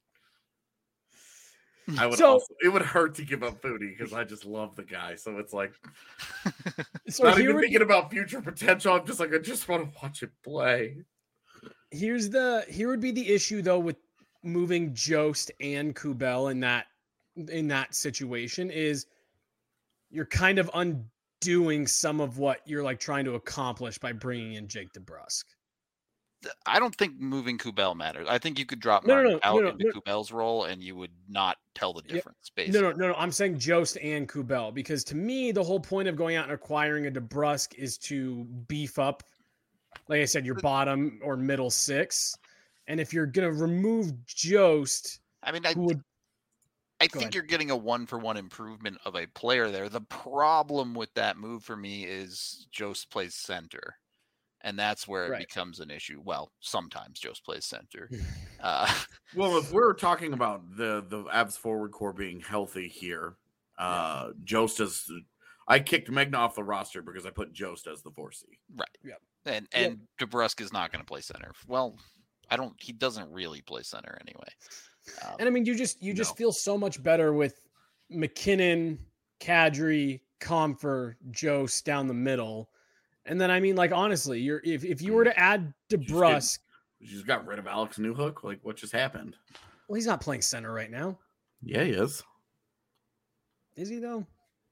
[SPEAKER 3] I would
[SPEAKER 2] So-
[SPEAKER 3] also. It would hurt to give up Foodie because I just love the guy. So it's like
[SPEAKER 2] So
[SPEAKER 3] not
[SPEAKER 2] here
[SPEAKER 3] even
[SPEAKER 2] would,
[SPEAKER 3] thinking about future potential. I'm just like I just want to watch it play.
[SPEAKER 2] here would be the issue though with moving Jost and Kubel in that situation is you're kind of undoing some of what you're like trying to accomplish by bringing in Jake DeBrusk.
[SPEAKER 4] I don't think moving Kubel matters. I think you could drop
[SPEAKER 2] No, no,
[SPEAKER 4] Martin
[SPEAKER 2] no,
[SPEAKER 4] out
[SPEAKER 2] no,
[SPEAKER 4] into
[SPEAKER 2] no.
[SPEAKER 4] Kubel's role, and you would not tell the
[SPEAKER 2] Yeah.
[SPEAKER 4] difference. Basically,
[SPEAKER 2] No. I'm saying Jost and Kubel because to me the whole point of going out and acquiring a DeBrusk is to beef up, like I said, your bottom or middle six. And if you're gonna remove Jost,
[SPEAKER 4] I mean,
[SPEAKER 2] who would
[SPEAKER 4] I
[SPEAKER 2] Go
[SPEAKER 4] think
[SPEAKER 2] ahead.
[SPEAKER 4] you're getting a 1-for-1 improvement of a player there. The problem with that move for me is Jost plays center, and that's where it
[SPEAKER 2] Right.
[SPEAKER 4] becomes an issue. Well, sometimes Jost plays center.
[SPEAKER 3] Well, if we're talking about the Avs forward core being healthy here, Jost is. I kicked Megna off the roster because I put Jost as the 4C.
[SPEAKER 4] Right.
[SPEAKER 2] Yep.
[SPEAKER 4] And DeBrusk is not going to play center. Well, he doesn't really play center anyway.
[SPEAKER 2] And I mean, you just
[SPEAKER 3] No.
[SPEAKER 2] feel so much better with McKinnon, Kadri, Comfer, Jost down the middle. And then I mean, like honestly, if you were to add DeBrusk,
[SPEAKER 3] You just got rid of Alex Newhook. Like, what just happened?
[SPEAKER 2] well, he's not playing center right now,
[SPEAKER 3] Yeah, he is.
[SPEAKER 2] is he though?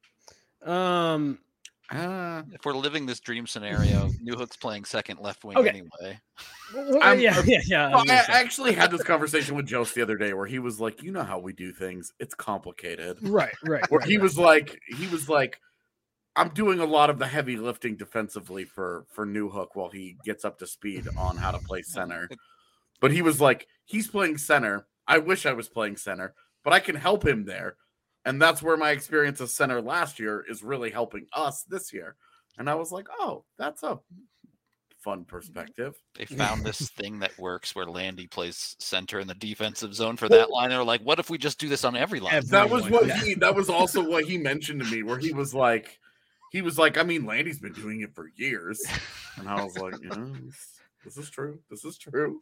[SPEAKER 4] If we're living this dream scenario, Newhook's playing second left wing
[SPEAKER 2] Okay.
[SPEAKER 4] anyway.
[SPEAKER 2] Well, yeah. I was
[SPEAKER 3] Well,
[SPEAKER 2] gonna
[SPEAKER 3] I
[SPEAKER 2] say.
[SPEAKER 3] actually had this conversation with Jost the other day where he was like, "You know how we do things. It's complicated."
[SPEAKER 2] Right.
[SPEAKER 3] Where he was like, "I'm doing a lot of the heavy lifting defensively for Newhook while he gets up to speed on how to play center." But he was like, "He's playing center. I wish I was playing center, but I can help him there." And that's where my experience as center last year is really helping us this year. And I was like, "Oh, that's a fun perspective."
[SPEAKER 4] They found this thing that works where Landy plays center in the defensive zone for that line. They're like, what if we just do this on every line?
[SPEAKER 3] That was
[SPEAKER 2] Everyone,
[SPEAKER 3] what that was also what he mentioned to me, where he was like, I mean, Landy's been doing it for years. And I was like, this is true. This is true.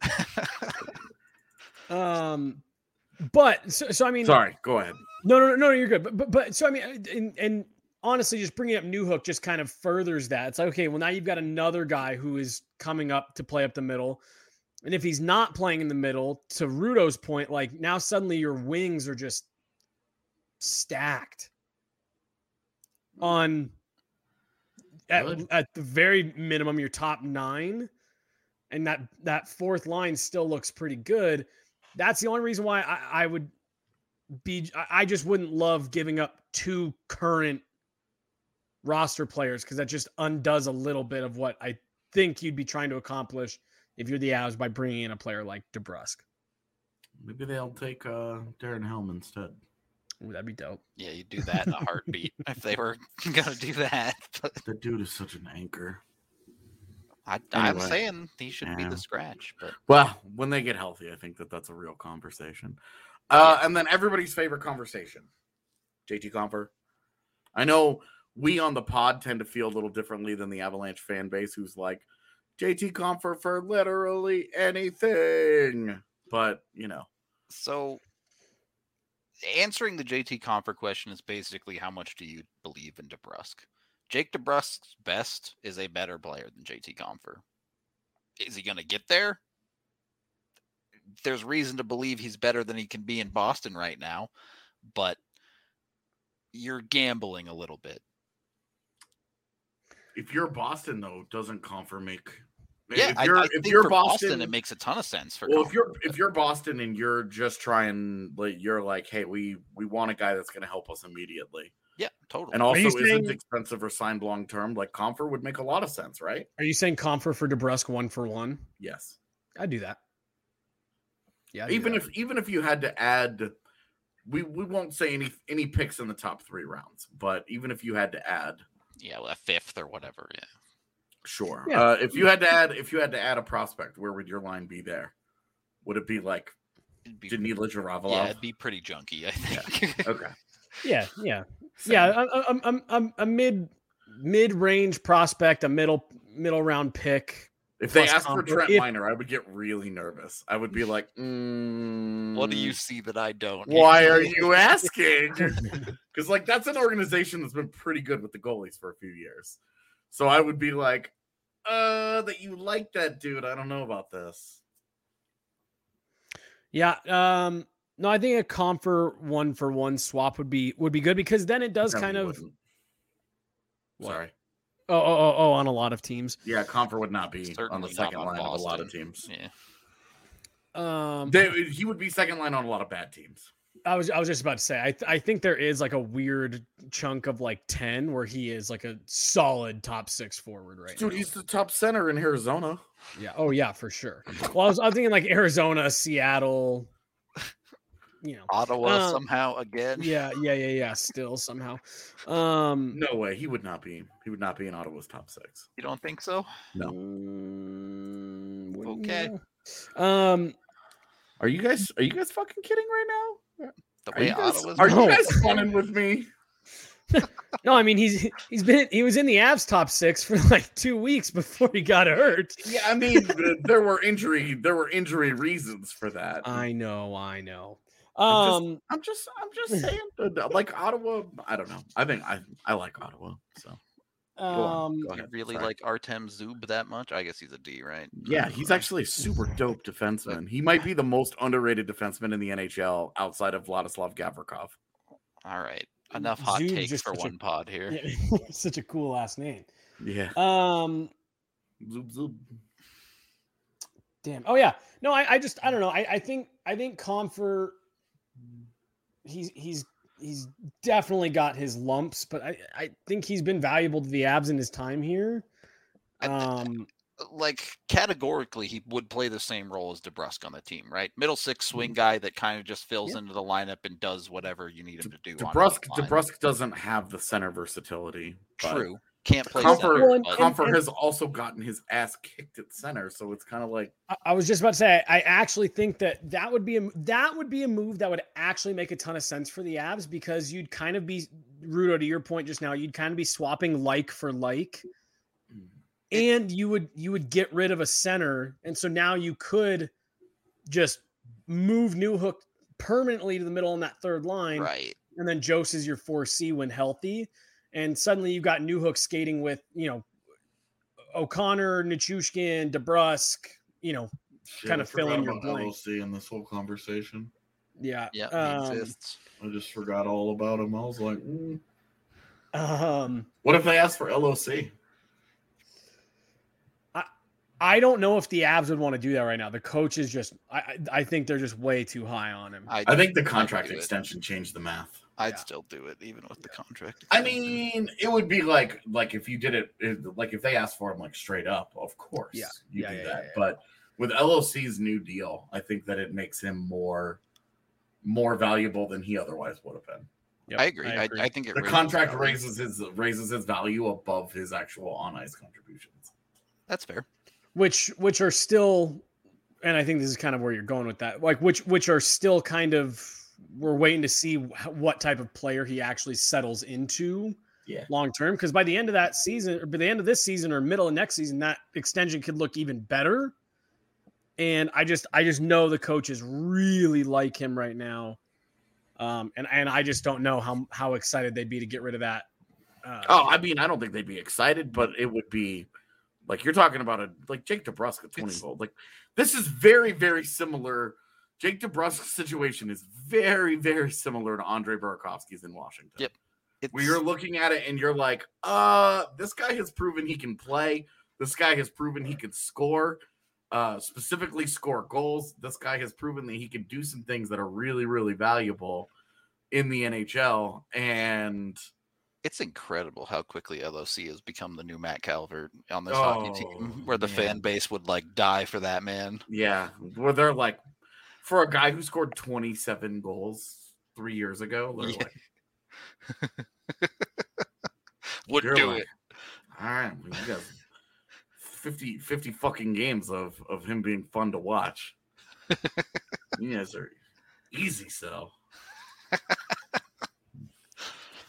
[SPEAKER 2] But so I mean,
[SPEAKER 3] Sorry, go ahead.
[SPEAKER 2] No, you're good. But so I mean, and honestly, just bringing up Newhook just kind of furthers that. It's like, okay, well now you've got another guy who is coming up to play up the middle, and if he's not playing in the middle, to Rudo's point, like now suddenly your wings are just stacked on
[SPEAKER 3] Good.
[SPEAKER 2] at the very minimum your top 9, and that fourth line still looks pretty good. That's the only reason why I would be. I just wouldn't love giving up 2 current roster players because that just undoes a little bit of what I think you'd be trying to accomplish if you're the Avs by bringing in a player like DeBrusk.
[SPEAKER 3] Maybe they'll take Darren Helm instead.
[SPEAKER 2] Ooh, that'd be dope.
[SPEAKER 4] Yeah, you do that in a heartbeat if they were going to do that. But
[SPEAKER 3] The dude is such an anchor.
[SPEAKER 4] I'm
[SPEAKER 3] Anyway,
[SPEAKER 4] saying he should be
[SPEAKER 3] yeah.
[SPEAKER 4] the scratch. But
[SPEAKER 3] Well, when they get healthy, I think that's a real conversation. And then everybody's favorite conversation, JT Compher. I know we on the pod tend to feel a little differently than the Avalanche fan base, who's like, JT Compher for literally anything. But,
[SPEAKER 4] so answering the JT Compher question is basically how much do you believe in DeBrusk? Jake DeBrusk's best is a better player than JT Compher. Is he going to get there? There's reason to believe he's better than he can be in Boston right now, but you're gambling a little bit.
[SPEAKER 3] if you're Boston, though, doesn't Compher make...
[SPEAKER 4] Yeah,
[SPEAKER 3] if you're,
[SPEAKER 4] I
[SPEAKER 3] if
[SPEAKER 4] think
[SPEAKER 3] you're
[SPEAKER 4] for
[SPEAKER 3] Boston,
[SPEAKER 4] it makes a ton of sense for
[SPEAKER 3] well,
[SPEAKER 4] Compher.
[SPEAKER 3] if you're Boston and you're just trying, like, you're like, hey, we want a guy that's going to help us immediately,
[SPEAKER 4] Yeah, totally.
[SPEAKER 3] and also
[SPEAKER 2] you
[SPEAKER 3] isn't
[SPEAKER 2] saying-
[SPEAKER 3] expensive or signed long term, like Compher would make a lot of sense, right?
[SPEAKER 2] Are you saying Comfer for DeBrusk 1-for-1?
[SPEAKER 3] Yes.
[SPEAKER 2] I'd do that. Yeah.
[SPEAKER 3] Even if you had to add, we won't say any picks in the top 3 rounds, but even if you had to add,
[SPEAKER 4] Yeah, a fifth or whatever. Yeah.
[SPEAKER 3] sure.
[SPEAKER 2] Yeah.
[SPEAKER 3] If you had to add a prospect, where would your line be there? Would it be like
[SPEAKER 4] It'd be,
[SPEAKER 3] Danila Jaravalov?
[SPEAKER 4] yeah, it'd be pretty junky, I think.
[SPEAKER 3] Okay.
[SPEAKER 2] Yeah.
[SPEAKER 3] Same.
[SPEAKER 2] Yeah, I'm a mid-range prospect, a middle round pick,
[SPEAKER 3] If they
[SPEAKER 2] plus
[SPEAKER 3] asked for
[SPEAKER 2] Comfer.
[SPEAKER 3] Trent
[SPEAKER 2] If-
[SPEAKER 3] Minor, I would get really nervous. I would be like,
[SPEAKER 4] What do you see that I don't?
[SPEAKER 3] Why are you asking? Because like that's an organization that's been pretty good with the goalies for a few years. So I would be like, that you like that dude. I don't know about this.
[SPEAKER 2] Yeah. No, I think a Comfer 1-for-1 swap would be good because then it does
[SPEAKER 3] No,
[SPEAKER 2] kind
[SPEAKER 3] you
[SPEAKER 2] of.
[SPEAKER 3] wouldn't.
[SPEAKER 2] What?
[SPEAKER 3] Sorry.
[SPEAKER 2] Oh, on a lot of teams.
[SPEAKER 3] Yeah, Comfer would not be on
[SPEAKER 4] Certainly
[SPEAKER 3] the
[SPEAKER 4] not
[SPEAKER 3] second
[SPEAKER 4] on
[SPEAKER 3] line of a lot of
[SPEAKER 4] Boston.
[SPEAKER 3] teams.
[SPEAKER 4] Yeah.
[SPEAKER 3] He would be second line on a lot of bad teams.
[SPEAKER 2] I was just about to say, I think there is like a weird chunk of like 10 where he is like a solid top 6 forward right
[SPEAKER 3] Dude,
[SPEAKER 2] now.
[SPEAKER 3] he's the top center in Arizona.
[SPEAKER 2] Yeah. Oh yeah, for sure. Well, I was thinking like Arizona, Seattle,
[SPEAKER 4] Ottawa somehow again.
[SPEAKER 2] Yeah. Still somehow.
[SPEAKER 3] No way. He would not be. He would not be in Ottawa's top 6.
[SPEAKER 4] You don't think so?
[SPEAKER 3] No.
[SPEAKER 4] Okay.
[SPEAKER 3] Are you guys fucking kidding right now?
[SPEAKER 4] The way Ottawa's
[SPEAKER 3] Are
[SPEAKER 2] No.
[SPEAKER 3] you guys funning with me?
[SPEAKER 2] No, I mean he was in the Avs top 6 for like 2 weeks before he got hurt.
[SPEAKER 3] Yeah, I mean there were injury reasons for that.
[SPEAKER 2] I know.
[SPEAKER 3] I'm just saying, like Ottawa. I don't know. I think I like Ottawa. So go on. Go
[SPEAKER 4] You
[SPEAKER 3] ahead.
[SPEAKER 4] really
[SPEAKER 3] Sorry.
[SPEAKER 4] like Artem Zub that much? I guess he's a D, right?
[SPEAKER 3] Yeah, he's actually a super dope defenseman. He might be the most underrated defenseman in the NHL outside of Vladislav Gavrikov.
[SPEAKER 4] All right. Enough hot
[SPEAKER 2] Zub's
[SPEAKER 4] takes
[SPEAKER 2] just
[SPEAKER 4] for
[SPEAKER 2] such a-
[SPEAKER 4] one pod here.
[SPEAKER 2] Yeah, such a cool last name.
[SPEAKER 3] Yeah. Zoop, zoop.
[SPEAKER 2] Damn. Oh yeah. No, I don't know. I think Comfer. He's definitely got his lumps, but I think he's been valuable to the Avs in his time here.
[SPEAKER 4] Like categorically, he would play the same role as DeBrusk on the team, right? Middle six swing guy that kind of just fills into the lineup and does whatever you need him to do.
[SPEAKER 3] DeBrusk doesn't have the center versatility. but
[SPEAKER 4] True. Can't play center,
[SPEAKER 3] Comfort,
[SPEAKER 4] but-
[SPEAKER 3] Comfort has also gotten his ass kicked at center, so it's kind of like
[SPEAKER 2] I was just about to say I actually think that would be a move that would actually make a ton of sense for the Avs because you'd kind of be Rudo, to your point just now, you'd kind of be swapping like for like. And you would get rid of a center, and so now you could just move Newhook permanently to the middle on that third line,
[SPEAKER 4] right?
[SPEAKER 2] And then Jose is your 4C when healthy, and suddenly you've got Newhook skating with O'Connor, Nichushkin, DeBrusk, kind of fill in your blank.
[SPEAKER 3] LOC in this whole conversation.
[SPEAKER 2] Yeah,
[SPEAKER 4] Yeah, he exists.
[SPEAKER 3] I just forgot all about him. I was like, what if they asked for LOC?
[SPEAKER 2] I don't know if the Avs would want to do that right now. The coach is just, I think they're just way too high on him.
[SPEAKER 3] I think the contract extension changed the math.
[SPEAKER 4] I'd still do it even with the contract.
[SPEAKER 3] I mean, it would be like if you did it, like if they asked for him like straight up, of course, you do that.
[SPEAKER 2] Yeah.
[SPEAKER 3] But with LOC's new deal, I think that it makes him more valuable than he otherwise would have been.
[SPEAKER 2] Yep,
[SPEAKER 4] I agree. I think
[SPEAKER 3] the contract raises his value above his actual on ice contributions.
[SPEAKER 4] That's fair.
[SPEAKER 2] Which are still, and I think this is kind of where you're going with that. Like which are still kind of, we're waiting to see what type of player he actually settles into long term. Because by the end of that season, or by the end of this season, or middle of next season, that extension could look even better. And I just know the coaches really like him right now, and I just don't know how excited they'd be to get rid of that.
[SPEAKER 3] I mean, I don't think they'd be excited, but it would be. Like you're talking about like Jake DeBrusk at 20 gold. Like this is very, very similar. Jake DeBrusk's situation is very, very similar to Andre Burakovsky's in Washington.
[SPEAKER 4] Yep.
[SPEAKER 3] Where you're looking at it and you're like, this guy has proven he can play. This guy has proven he can score, specifically score goals. This guy has proven that he can do some things that are really, really valuable in the NHL. And
[SPEAKER 4] it's incredible how quickly LOC has become the new Matt Calvert on this hockey team, where the fan base would like die for that man.
[SPEAKER 3] Yeah, where they're like, for a guy who scored 27 goals 3 years ago, they're like,
[SPEAKER 4] would do it.
[SPEAKER 3] All right, we got 50 fucking games of him being fun to watch. You guys are easy sell.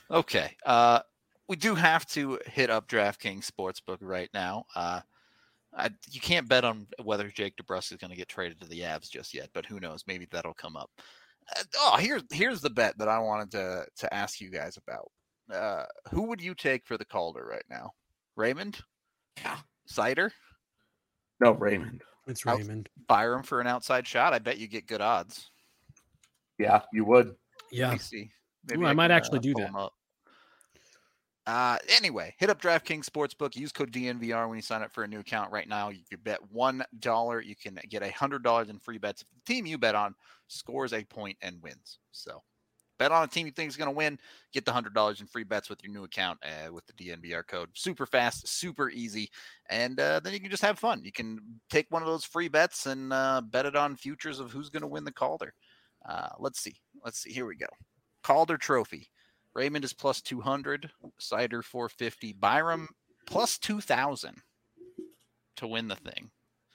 [SPEAKER 4] Okay. We do have to hit up DraftKings Sportsbook right now. You can't bet on whether Jake DeBrusk is going to get traded to the Avs just yet, but who knows? Maybe that'll come up. Here's the bet that I wanted to ask you guys about. Who would you take for the Calder right now? Raymond?
[SPEAKER 3] Yeah.
[SPEAKER 4] Cider?
[SPEAKER 3] No, Raymond.
[SPEAKER 2] It's Raymond.
[SPEAKER 4] Byram for an outside shot. I bet you get good odds.
[SPEAKER 3] Yeah, you would.
[SPEAKER 4] Let
[SPEAKER 2] Yeah.
[SPEAKER 4] me see.
[SPEAKER 2] Ooh, I might
[SPEAKER 4] can,
[SPEAKER 2] actually do
[SPEAKER 4] pull
[SPEAKER 2] that.
[SPEAKER 4] 'em up. Anyway, hit up DraftKings Sportsbook. Use code DNVR when you sign up for a new account right now. You can bet $1. You can get $100 in free bets if the team you bet on scores a point and wins. So bet on a team you think is going to win. Get the $100 in free bets with your new account with the DNVR code. Super fast, super easy. And then you can just have fun. You can take one of those free bets and bet it on futures of who's going to win the Calder. Let's see. Here we go. Calder Trophy. Raymond is plus 200, Cider 450, Byram plus 2,000 to win the thing.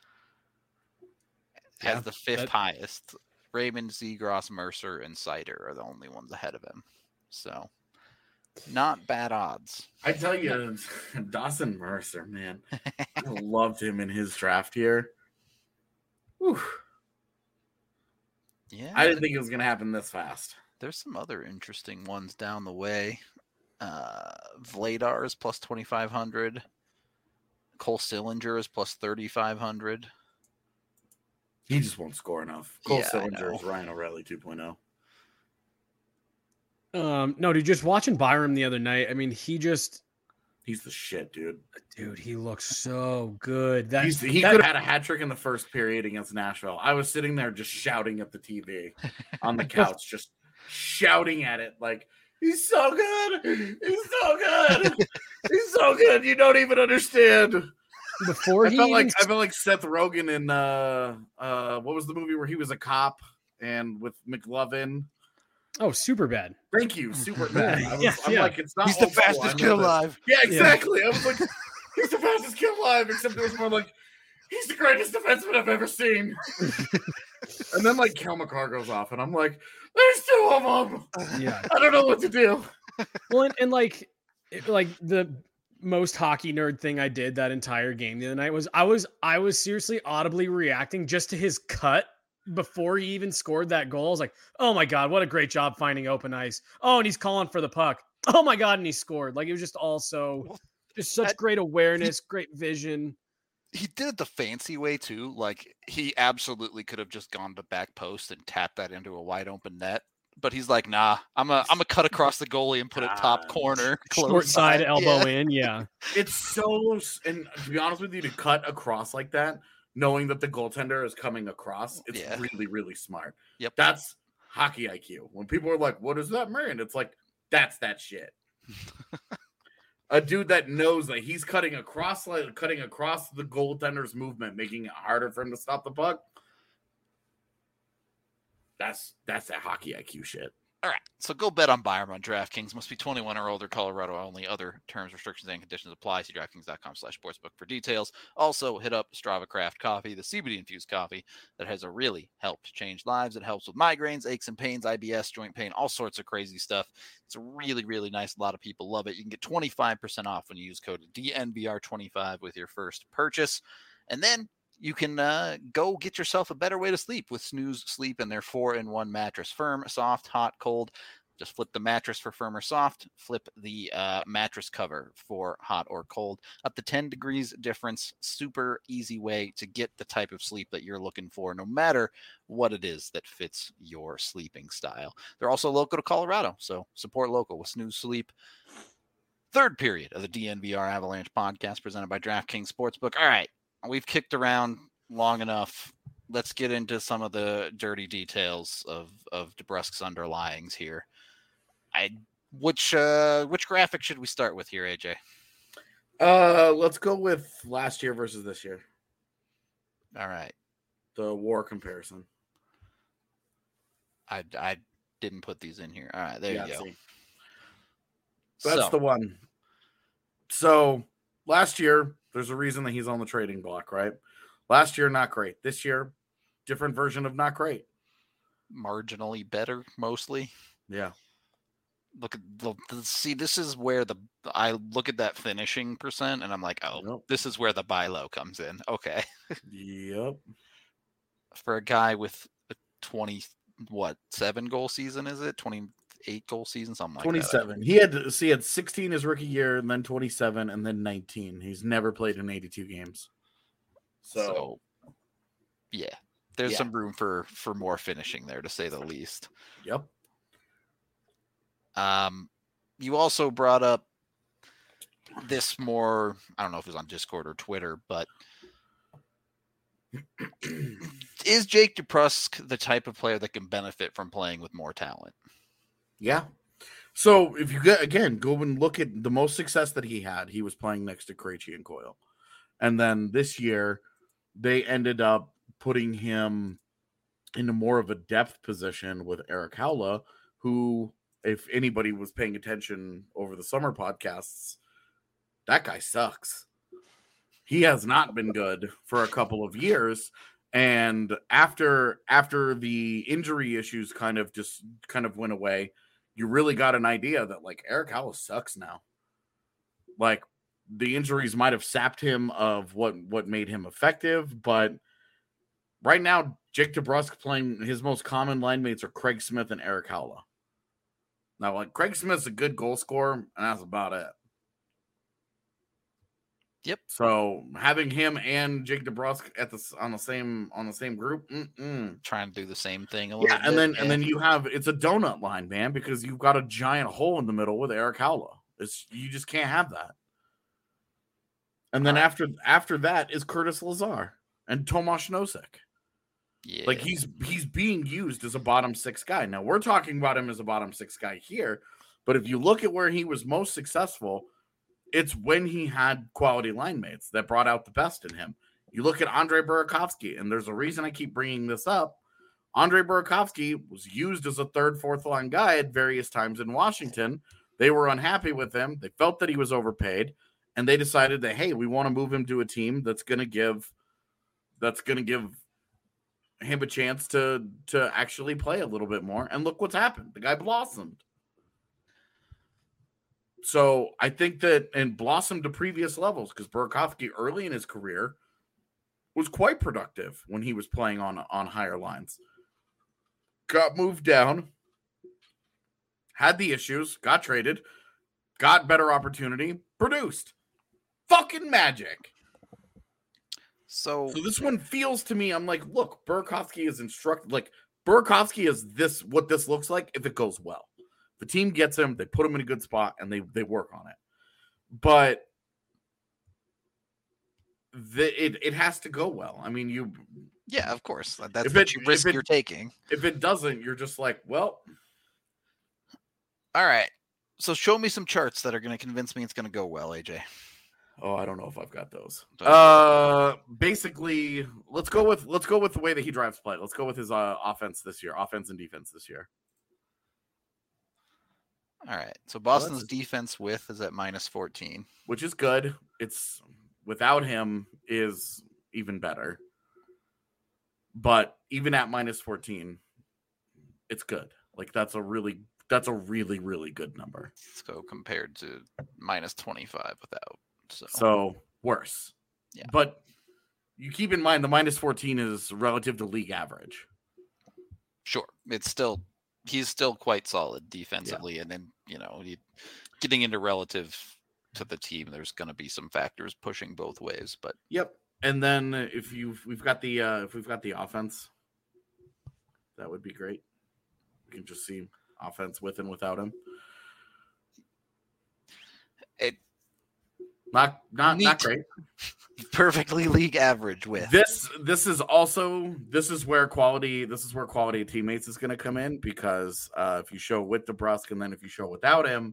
[SPEAKER 4] Has the fifth highest. Raymond, Zegras, Mercer, and Cider are the only ones ahead of him. So, not bad odds.
[SPEAKER 3] I tell you, Dawson Mercer, man, I loved him in his draft year. Whew.
[SPEAKER 4] Yeah,
[SPEAKER 3] I didn't think it was going to happen this fast.
[SPEAKER 4] There's some other interesting ones down the way. Vladar is plus 2,500. Cole Sillinger is plus 3,500.
[SPEAKER 3] He just won't score enough. Cole
[SPEAKER 4] Yeah, I
[SPEAKER 3] Sillinger is
[SPEAKER 4] know.
[SPEAKER 3] Ryan O'Reilly 2.0.
[SPEAKER 2] No, dude, just watching Byram the other night. I mean,
[SPEAKER 3] He's the shit, dude.
[SPEAKER 2] he looks so good.
[SPEAKER 3] He could have had a hat trick in the first period against Nashville. I was sitting there just shouting at the TV on the couch, just shouting at it like, he's so good. He's so good. He's so good. You don't even understand.
[SPEAKER 2] before
[SPEAKER 3] I
[SPEAKER 2] he
[SPEAKER 3] felt
[SPEAKER 2] even
[SPEAKER 3] like Seth Rogen in what was the movie where he was a cop and with McLovin?
[SPEAKER 2] Oh, super bad.
[SPEAKER 3] Thank you, super bad. I'm
[SPEAKER 2] Yeah.
[SPEAKER 3] like, it's not.
[SPEAKER 4] He's the
[SPEAKER 3] old school,
[SPEAKER 4] fastest
[SPEAKER 3] I know
[SPEAKER 4] kid
[SPEAKER 3] this.
[SPEAKER 4] alive.
[SPEAKER 3] Yeah, exactly. I was like, he's the fastest kid alive, except it was more like, he's the greatest defenseman I've ever seen. And then like Kel McCarr goes off, and I'm like, there's two of them.
[SPEAKER 2] Yeah.
[SPEAKER 3] I don't know what to do.
[SPEAKER 2] Well, and like the most hockey nerd thing I did that entire game the other night was I was seriously audibly reacting just to his cut before he even scored that goal. I was like, oh my God, what a great job finding open ice. Oh, and he's calling for the puck. Oh my God, and he scored. Like, it was just also just such great awareness, great vision.
[SPEAKER 4] He did it the fancy way too. Like, he absolutely could have just gone to back post and tapped that into a wide open net. But he's like, nah, I'm a cut across the goalie and put it top corner,
[SPEAKER 2] Short
[SPEAKER 4] close
[SPEAKER 2] side,
[SPEAKER 4] side.
[SPEAKER 2] elbow
[SPEAKER 4] Yeah.
[SPEAKER 2] in. Yeah.
[SPEAKER 3] It's so, and to be honest with you, to cut across like that, knowing that the goaltender is coming across, it's
[SPEAKER 4] Yeah.
[SPEAKER 3] really, really smart.
[SPEAKER 4] Yep.
[SPEAKER 3] That's hockey IQ. When people are like, what does that mean? It's like, that's that shit. A dude that knows that he's cutting across the goaltender's movement, making it harder for him to stop the puck. That's that hockey IQ shit.
[SPEAKER 4] All right, so go bet on Byram on DraftKings. Must be 21 or older, Colorado only. Other terms, restrictions, and conditions apply. See DraftKings.com/sportsbook for details. Also, hit up Strava Craft Coffee, the CBD-infused coffee that has really helped change lives. It helps with migraines, aches and pains, IBS, joint pain, all sorts of crazy stuff. It's really, really nice. A lot of people love it. You can get 25% off when you use code DNVR25 with your first purchase. And then you can go get yourself a better way to sleep with Snooze Sleep and their 4-in-1 mattress. Firm, soft, hot, cold. Just flip the mattress for firm or soft. Flip the mattress cover for hot or cold. Up to 10 degrees difference. Super easy way to get the type of sleep that you're looking for, no matter what it is that fits your sleeping style. They're also local to Colorado, so support local with Snooze Sleep. Third period of the DNVR Avalanche podcast presented by DraftKings Sportsbook. All right. We've kicked around long enough. Let's get into some of the dirty details of DeBrusk's underlyings here. Which graphic should we start with here, AJ?
[SPEAKER 3] Let's go with last year versus this year.
[SPEAKER 4] All right.
[SPEAKER 3] The WAR comparison.
[SPEAKER 4] I didn't put these in here. All right, there you go.
[SPEAKER 3] See. That's the one. So last year, there's a reason that he's on the trading block, right? Last year, not great. This year, different version of not great.
[SPEAKER 4] Marginally better, mostly.
[SPEAKER 3] Yeah.
[SPEAKER 4] look at see. This is where I look at that finishing percent, and I'm like, oh,
[SPEAKER 3] Yep.
[SPEAKER 4] this is where the buy low comes in. Okay,
[SPEAKER 3] Yep.
[SPEAKER 4] for a guy with a 7 goal season, is it 28 goal season, something like
[SPEAKER 3] 27. He had 16 his rookie year, and then 27, and then 19. He's never played in 82 games.
[SPEAKER 4] that. So yeah, there's
[SPEAKER 3] Yeah.
[SPEAKER 4] some room for more finishing there, to say the least.
[SPEAKER 3] Yep.
[SPEAKER 4] You also brought up this more, I don't know if it was on Discord or Twitter, but is Jake DeBrusk the type of player that can benefit from playing with more talent?
[SPEAKER 3] Yeah. So if you go and look at the most success that he had, he was playing next to Krejci and Coyle. And then this year, they ended up putting him into more of a depth position with Eric Howla, who, if anybody was paying attention over the summer podcasts, that guy sucks. He has not been good for a couple of years. And after the injury issues kind of went away, you really got an idea that like Eric Howla sucks now. Like the injuries might have sapped him of what made him effective, but right now Jake DeBrusk playing, his most common line mates are Craig Smith and Eric Howla. Now, like Craig Smith's a good goal scorer, and that's about it.
[SPEAKER 4] Yep.
[SPEAKER 3] So having him and Jake DeBrusk on the same group,
[SPEAKER 4] Trying to do the same thing a little
[SPEAKER 3] yeah,
[SPEAKER 4] bit.
[SPEAKER 3] and then you have, it's a donut line, man, because you've got a giant hole in the middle with Eric Howla. You just can't have that. And then after that is Curtis Lazar and Tomáš Nosek.
[SPEAKER 4] Yeah.
[SPEAKER 3] Like he's being used as a bottom six guy. Now we're talking about him as a bottom six guy here, but if you look at where he was most successful, it's when he had quality line mates that brought out the best in him. You look at Andre Burakovsky, and there's a reason I keep bringing this up. Andre Burakovsky was used as a third, fourth line guy at various times in Washington. They were unhappy with him. They felt that he was overpaid, and they decided that, hey, we want to move him to a team that's going to give him a chance to actually play a little bit more. And look what's happened. The guy blossomed. So I think that, and blossomed to previous levels, because Burakovsky early in his career was quite productive when he was playing on higher lines. Got moved down, had the issues, got traded, got better opportunity, produced. Fucking magic.
[SPEAKER 4] So
[SPEAKER 3] this one feels to me, I'm like, look, Burakovsky is instructed. Like, Burakovsky is what this looks like if it goes well. The team gets him, they put him in a good spot, and they work on it. But it has to go well. I mean,
[SPEAKER 4] yeah, of course. That's what you risk you're taking.
[SPEAKER 3] If it doesn't, you're just like, well.
[SPEAKER 4] All right. So show me some charts that are going to convince me it's going to go well, AJ.
[SPEAKER 3] Oh, I don't know if I've got those.
[SPEAKER 4] Okay.
[SPEAKER 3] Basically, let's go with the way that he drives play. Let's go with his offense and defense this year.
[SPEAKER 4] All right. So Boston's defense width is at -14,
[SPEAKER 3] which is good. It's without him is even better. But even at -14, it's good. Like that's a really, really good number.
[SPEAKER 4] So compared to -25 without.
[SPEAKER 3] So worse.
[SPEAKER 4] Yeah.
[SPEAKER 3] But you keep in mind the -14 is relative to league average.
[SPEAKER 4] Sure. He's still quite solid defensively. Yeah. And then, getting into relative to the team, there's going to be some factors pushing both ways, but
[SPEAKER 3] yep. And then if we've got the offense, that would be great. We can just see offense with and without him. Not great.
[SPEAKER 4] Perfectly league average with
[SPEAKER 3] this is where quality of teammates is going to come in, because if you show with DeBrusk and then if you show without him,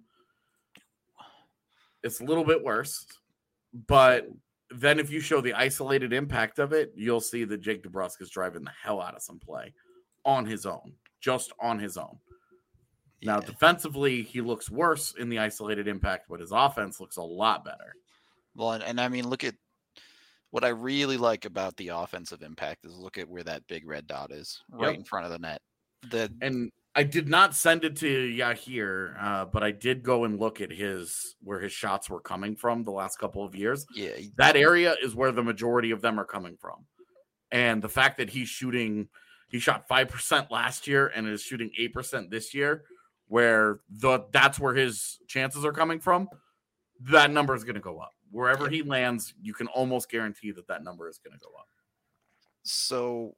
[SPEAKER 3] it's a little bit worse. But then if you show the isolated impact of it, you'll see that Jake DeBrusk is driving the hell out of some play on his own, just on his own. Yeah. Now, defensively, he looks worse in the isolated impact, but his offense looks a lot better.
[SPEAKER 4] Well, and I mean, look at what I really like about the offensive impact is look at where that big red dot is right in front of the net.
[SPEAKER 3] I did not send it to Yahir, but I did go and look at where his shots were coming from the last couple of years.
[SPEAKER 4] Yeah,
[SPEAKER 3] That area is where the majority of them are coming from. And the fact that he shot 5% last year and is shooting 8% this year, that's where his chances are coming from, that number is going to go up. Wherever he lands, you can almost guarantee that number is going to go up.
[SPEAKER 1] So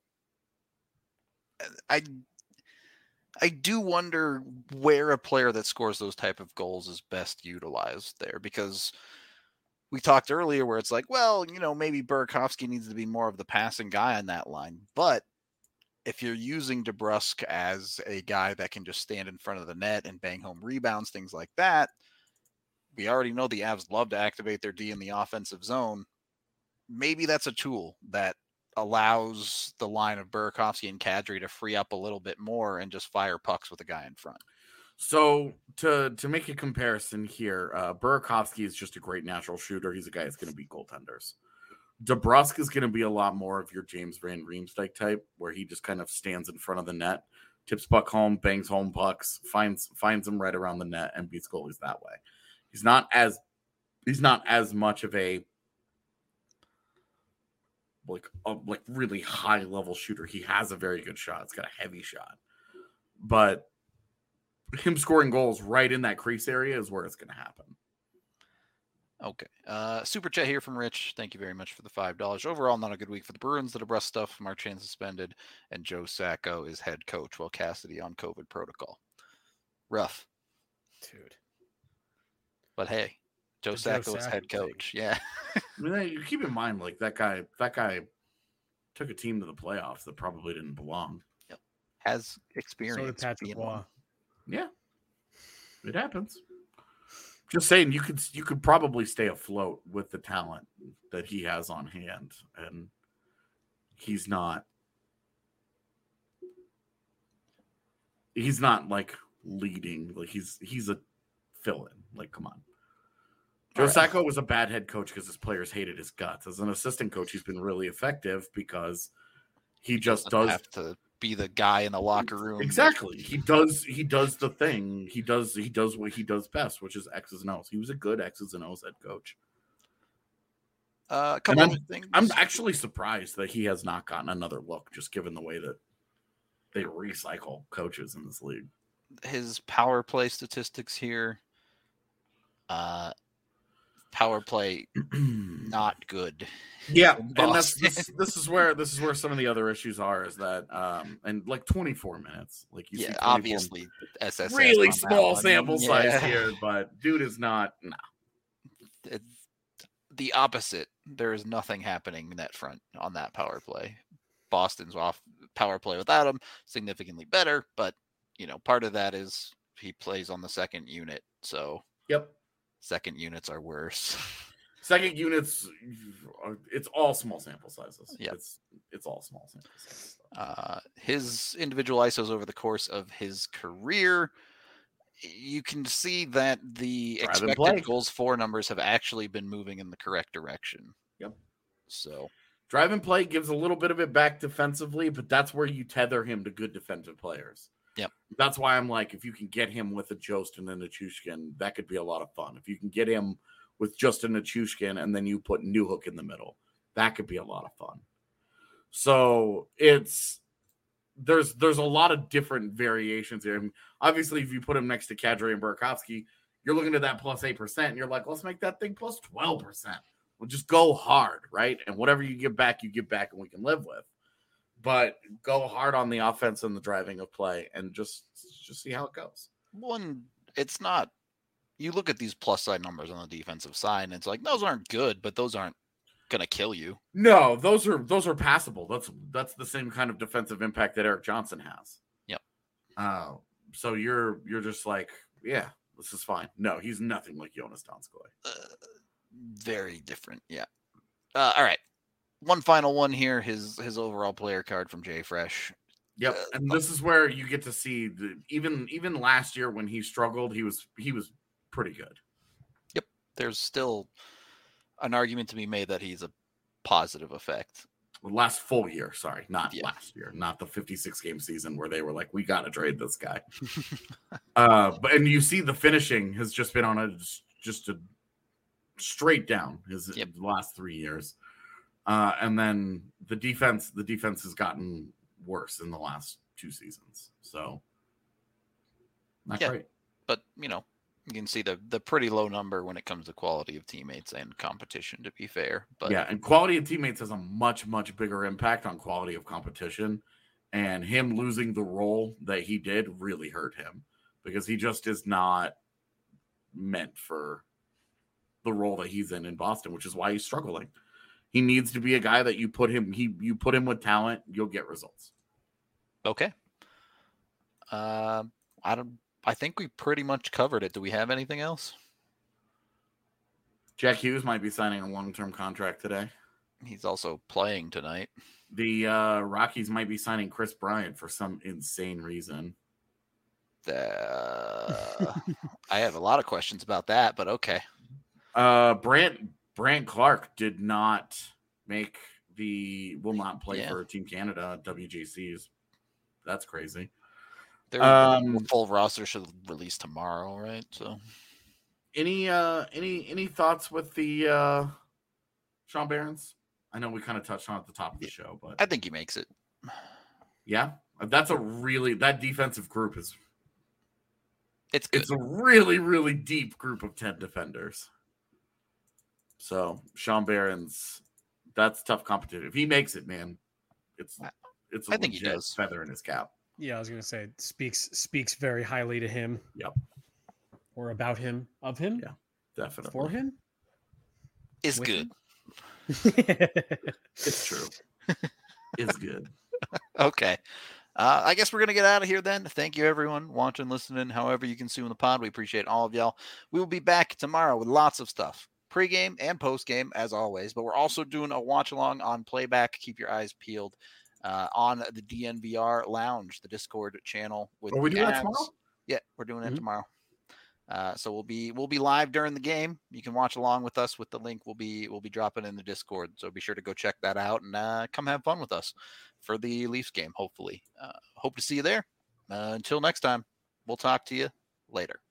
[SPEAKER 1] I do wonder where a player that scores those type of goals is best utilized there, because we talked earlier where it's like, well, maybe Burakovsky needs to be more of the passing guy on that line. But if you're using DeBrusk as a guy that can just stand in front of the net and bang home rebounds, things like that, we already know the Avs love to activate their D in the offensive zone. Maybe that's a tool that allows the line of Burakovsky and Kadri to free up a little bit more and just fire pucks with a guy in front.
[SPEAKER 3] So to make a comparison here, Burakovsky is just a great natural shooter. He's a guy that's going to beat goaltenders. DeBrusk is going to be a lot more of your James Van Riemsdyk type, where he just kind of stands in front of the net, tips puck home, bangs home pucks, finds them right around the net, and beats goalies that way. He's not as much of a really high level shooter. He has a very good shot. It's got a heavy shot, but him scoring goals right in that crease area is where it's going to happen.
[SPEAKER 1] Okay. Super chat here from Rich. Thank you very much for the $5. Overall, not a good week for the Bruins. The DeBrusk stuff, Marchand suspended, and Joe Sacco is head coach while Cassidy on COVID protocol. Rough.
[SPEAKER 2] Dude.
[SPEAKER 1] But hey, Joe Sacco is head coach. Yeah.
[SPEAKER 3] I mean, you keep in mind, like that guy took a team to the playoffs that probably didn't belong.
[SPEAKER 1] Yep. Has experience.
[SPEAKER 2] So did Patrick Waugh.
[SPEAKER 3] Yeah. It happens. Just saying, you could probably stay afloat with the talent that he has on hand, and he's not like leading, like he's a fill-in. Like, come on. Joe Sacco was a bad head coach because his players hated his guts. As an assistant coach, he's been really effective because he just does
[SPEAKER 1] have to be the guy in the locker room.
[SPEAKER 3] Exactly. He does the thing. He does what he does best, which is X's and O's. He was a good X's and O's head coach.
[SPEAKER 1] A couple of things.
[SPEAKER 3] I'm actually surprised that he has not gotten another look, just given the way that they recycle coaches in this league.
[SPEAKER 1] His power play statistics here. Power play not good.
[SPEAKER 3] Yeah, and this is where some of the other issues are, is that and like 24 minutes, like you see,
[SPEAKER 1] obviously SSS
[SPEAKER 3] really small sample size here, but dude is not
[SPEAKER 1] the opposite. There is nothing happening in that front on that power play. Boston's off power play without him, significantly better, but part of that is he plays on the second unit, so
[SPEAKER 3] yep.
[SPEAKER 1] Second units are worse.
[SPEAKER 3] Second units, it's all small sample sizes.
[SPEAKER 1] Yeah,
[SPEAKER 3] it's all small sample sizes.
[SPEAKER 1] His individual ISOs over the course of his career, you can see that the expected goals for numbers have actually been moving in the correct direction.
[SPEAKER 3] Yep.
[SPEAKER 1] So
[SPEAKER 3] drive and play gives a little bit of it back defensively, but that's where you tether him to good defensive players.
[SPEAKER 1] Yep.
[SPEAKER 3] That's why I'm like, if you can get him with a Jostin and a Chushkin, that could be a lot of fun. If you can get him with just a Chushkin and then you put Newhook in the middle, that could be a lot of fun. So there's a lot of different variations here. And obviously, if you put him next to Kadri and Burakovsky, you're looking at that plus 8%, and you're like, let's make that thing plus 12%. We'll just go hard, right? And whatever you give back, and we can live with. But go hard on the offense and the driving of play, and just see how it goes.
[SPEAKER 1] It's not. You look at these plus side numbers on the defensive side, and it's like those aren't good, but those aren't gonna kill you.
[SPEAKER 3] No, those are passable. That's the same kind of defensive impact that Erik Johnson has.
[SPEAKER 1] Yep.
[SPEAKER 3] So you're just like, yeah, this is fine. No, he's nothing like Jonas Donskoy.
[SPEAKER 1] Very different. Yeah. All right. One final one here, his overall player card from Jay Fresh.
[SPEAKER 3] Yep, and this is where you get to see even last year when he struggled, he was pretty good.
[SPEAKER 1] Yep, there's still an argument to be made that he's a positive effect.
[SPEAKER 3] last full year. Sorry, not
[SPEAKER 4] Yeah.
[SPEAKER 3] last year, not the 56 game season where they were like, we got to trade this guy. And you see the finishing has just been on a straight down his last 3 years. And then the defense has gotten worse in the last 2 seasons. So not great.
[SPEAKER 4] But, you can see the pretty low number when it comes to quality of teammates and competition, to be fair. But
[SPEAKER 3] yeah, and quality of teammates has a much, much bigger impact on quality of competition. And him losing the role that he did really hurt him because he just is not meant for the role that he's in Boston, which is why he's struggling. He needs to be a guy that you put him with talent, you'll get results.
[SPEAKER 4] Okay. I think we pretty much covered it. Do we have anything else?
[SPEAKER 3] Jack Hughes might be signing a long-term contract today.
[SPEAKER 4] He's also playing tonight.
[SPEAKER 3] The Rockies might be signing Chris Bryant for some insane reason.
[SPEAKER 4] I have a lot of questions about that, but okay.
[SPEAKER 3] Brant Clark did not will not play for Team Canada WGCs. That's crazy.
[SPEAKER 4] Their full roster should release tomorrow, right? So,
[SPEAKER 3] any thoughts with the Sean Behrens? I know we kind of touched on it at the top of the show, but
[SPEAKER 4] I think he makes it.
[SPEAKER 3] Yeah, that defensive group is.
[SPEAKER 4] It's
[SPEAKER 3] a really, really deep group of 10 defenders. So Sean Behrens, that's tough competition. If he makes it, man, it's
[SPEAKER 4] I think he does.
[SPEAKER 3] Feather in his cap.
[SPEAKER 2] Yeah, I was gonna say it speaks very highly to him.
[SPEAKER 3] Yep.
[SPEAKER 2] Or about him, of him.
[SPEAKER 3] Yeah, definitely.
[SPEAKER 2] For him.
[SPEAKER 4] Is good.
[SPEAKER 3] It's true. It's good.
[SPEAKER 4] Okay. I guess we're going to get out of here then. Thank you, everyone, watching, listening, however you consume the pod. We appreciate all of y'all. We will be back tomorrow with lots of stuff. Pre-game and post-game, as always. But we're also doing a watch-along on Playback. Keep your eyes peeled on the DNVR Lounge, the Discord channel.
[SPEAKER 3] Are we doing that tomorrow?
[SPEAKER 4] Yeah, we're doing it tomorrow. So we'll be live during the game. You can watch along with us with the link we'll be dropping in the Discord. So be sure to go check that out and come have fun with us for the Leafs game. Hopefully, hope to see you there. Until next time, we'll talk to you later.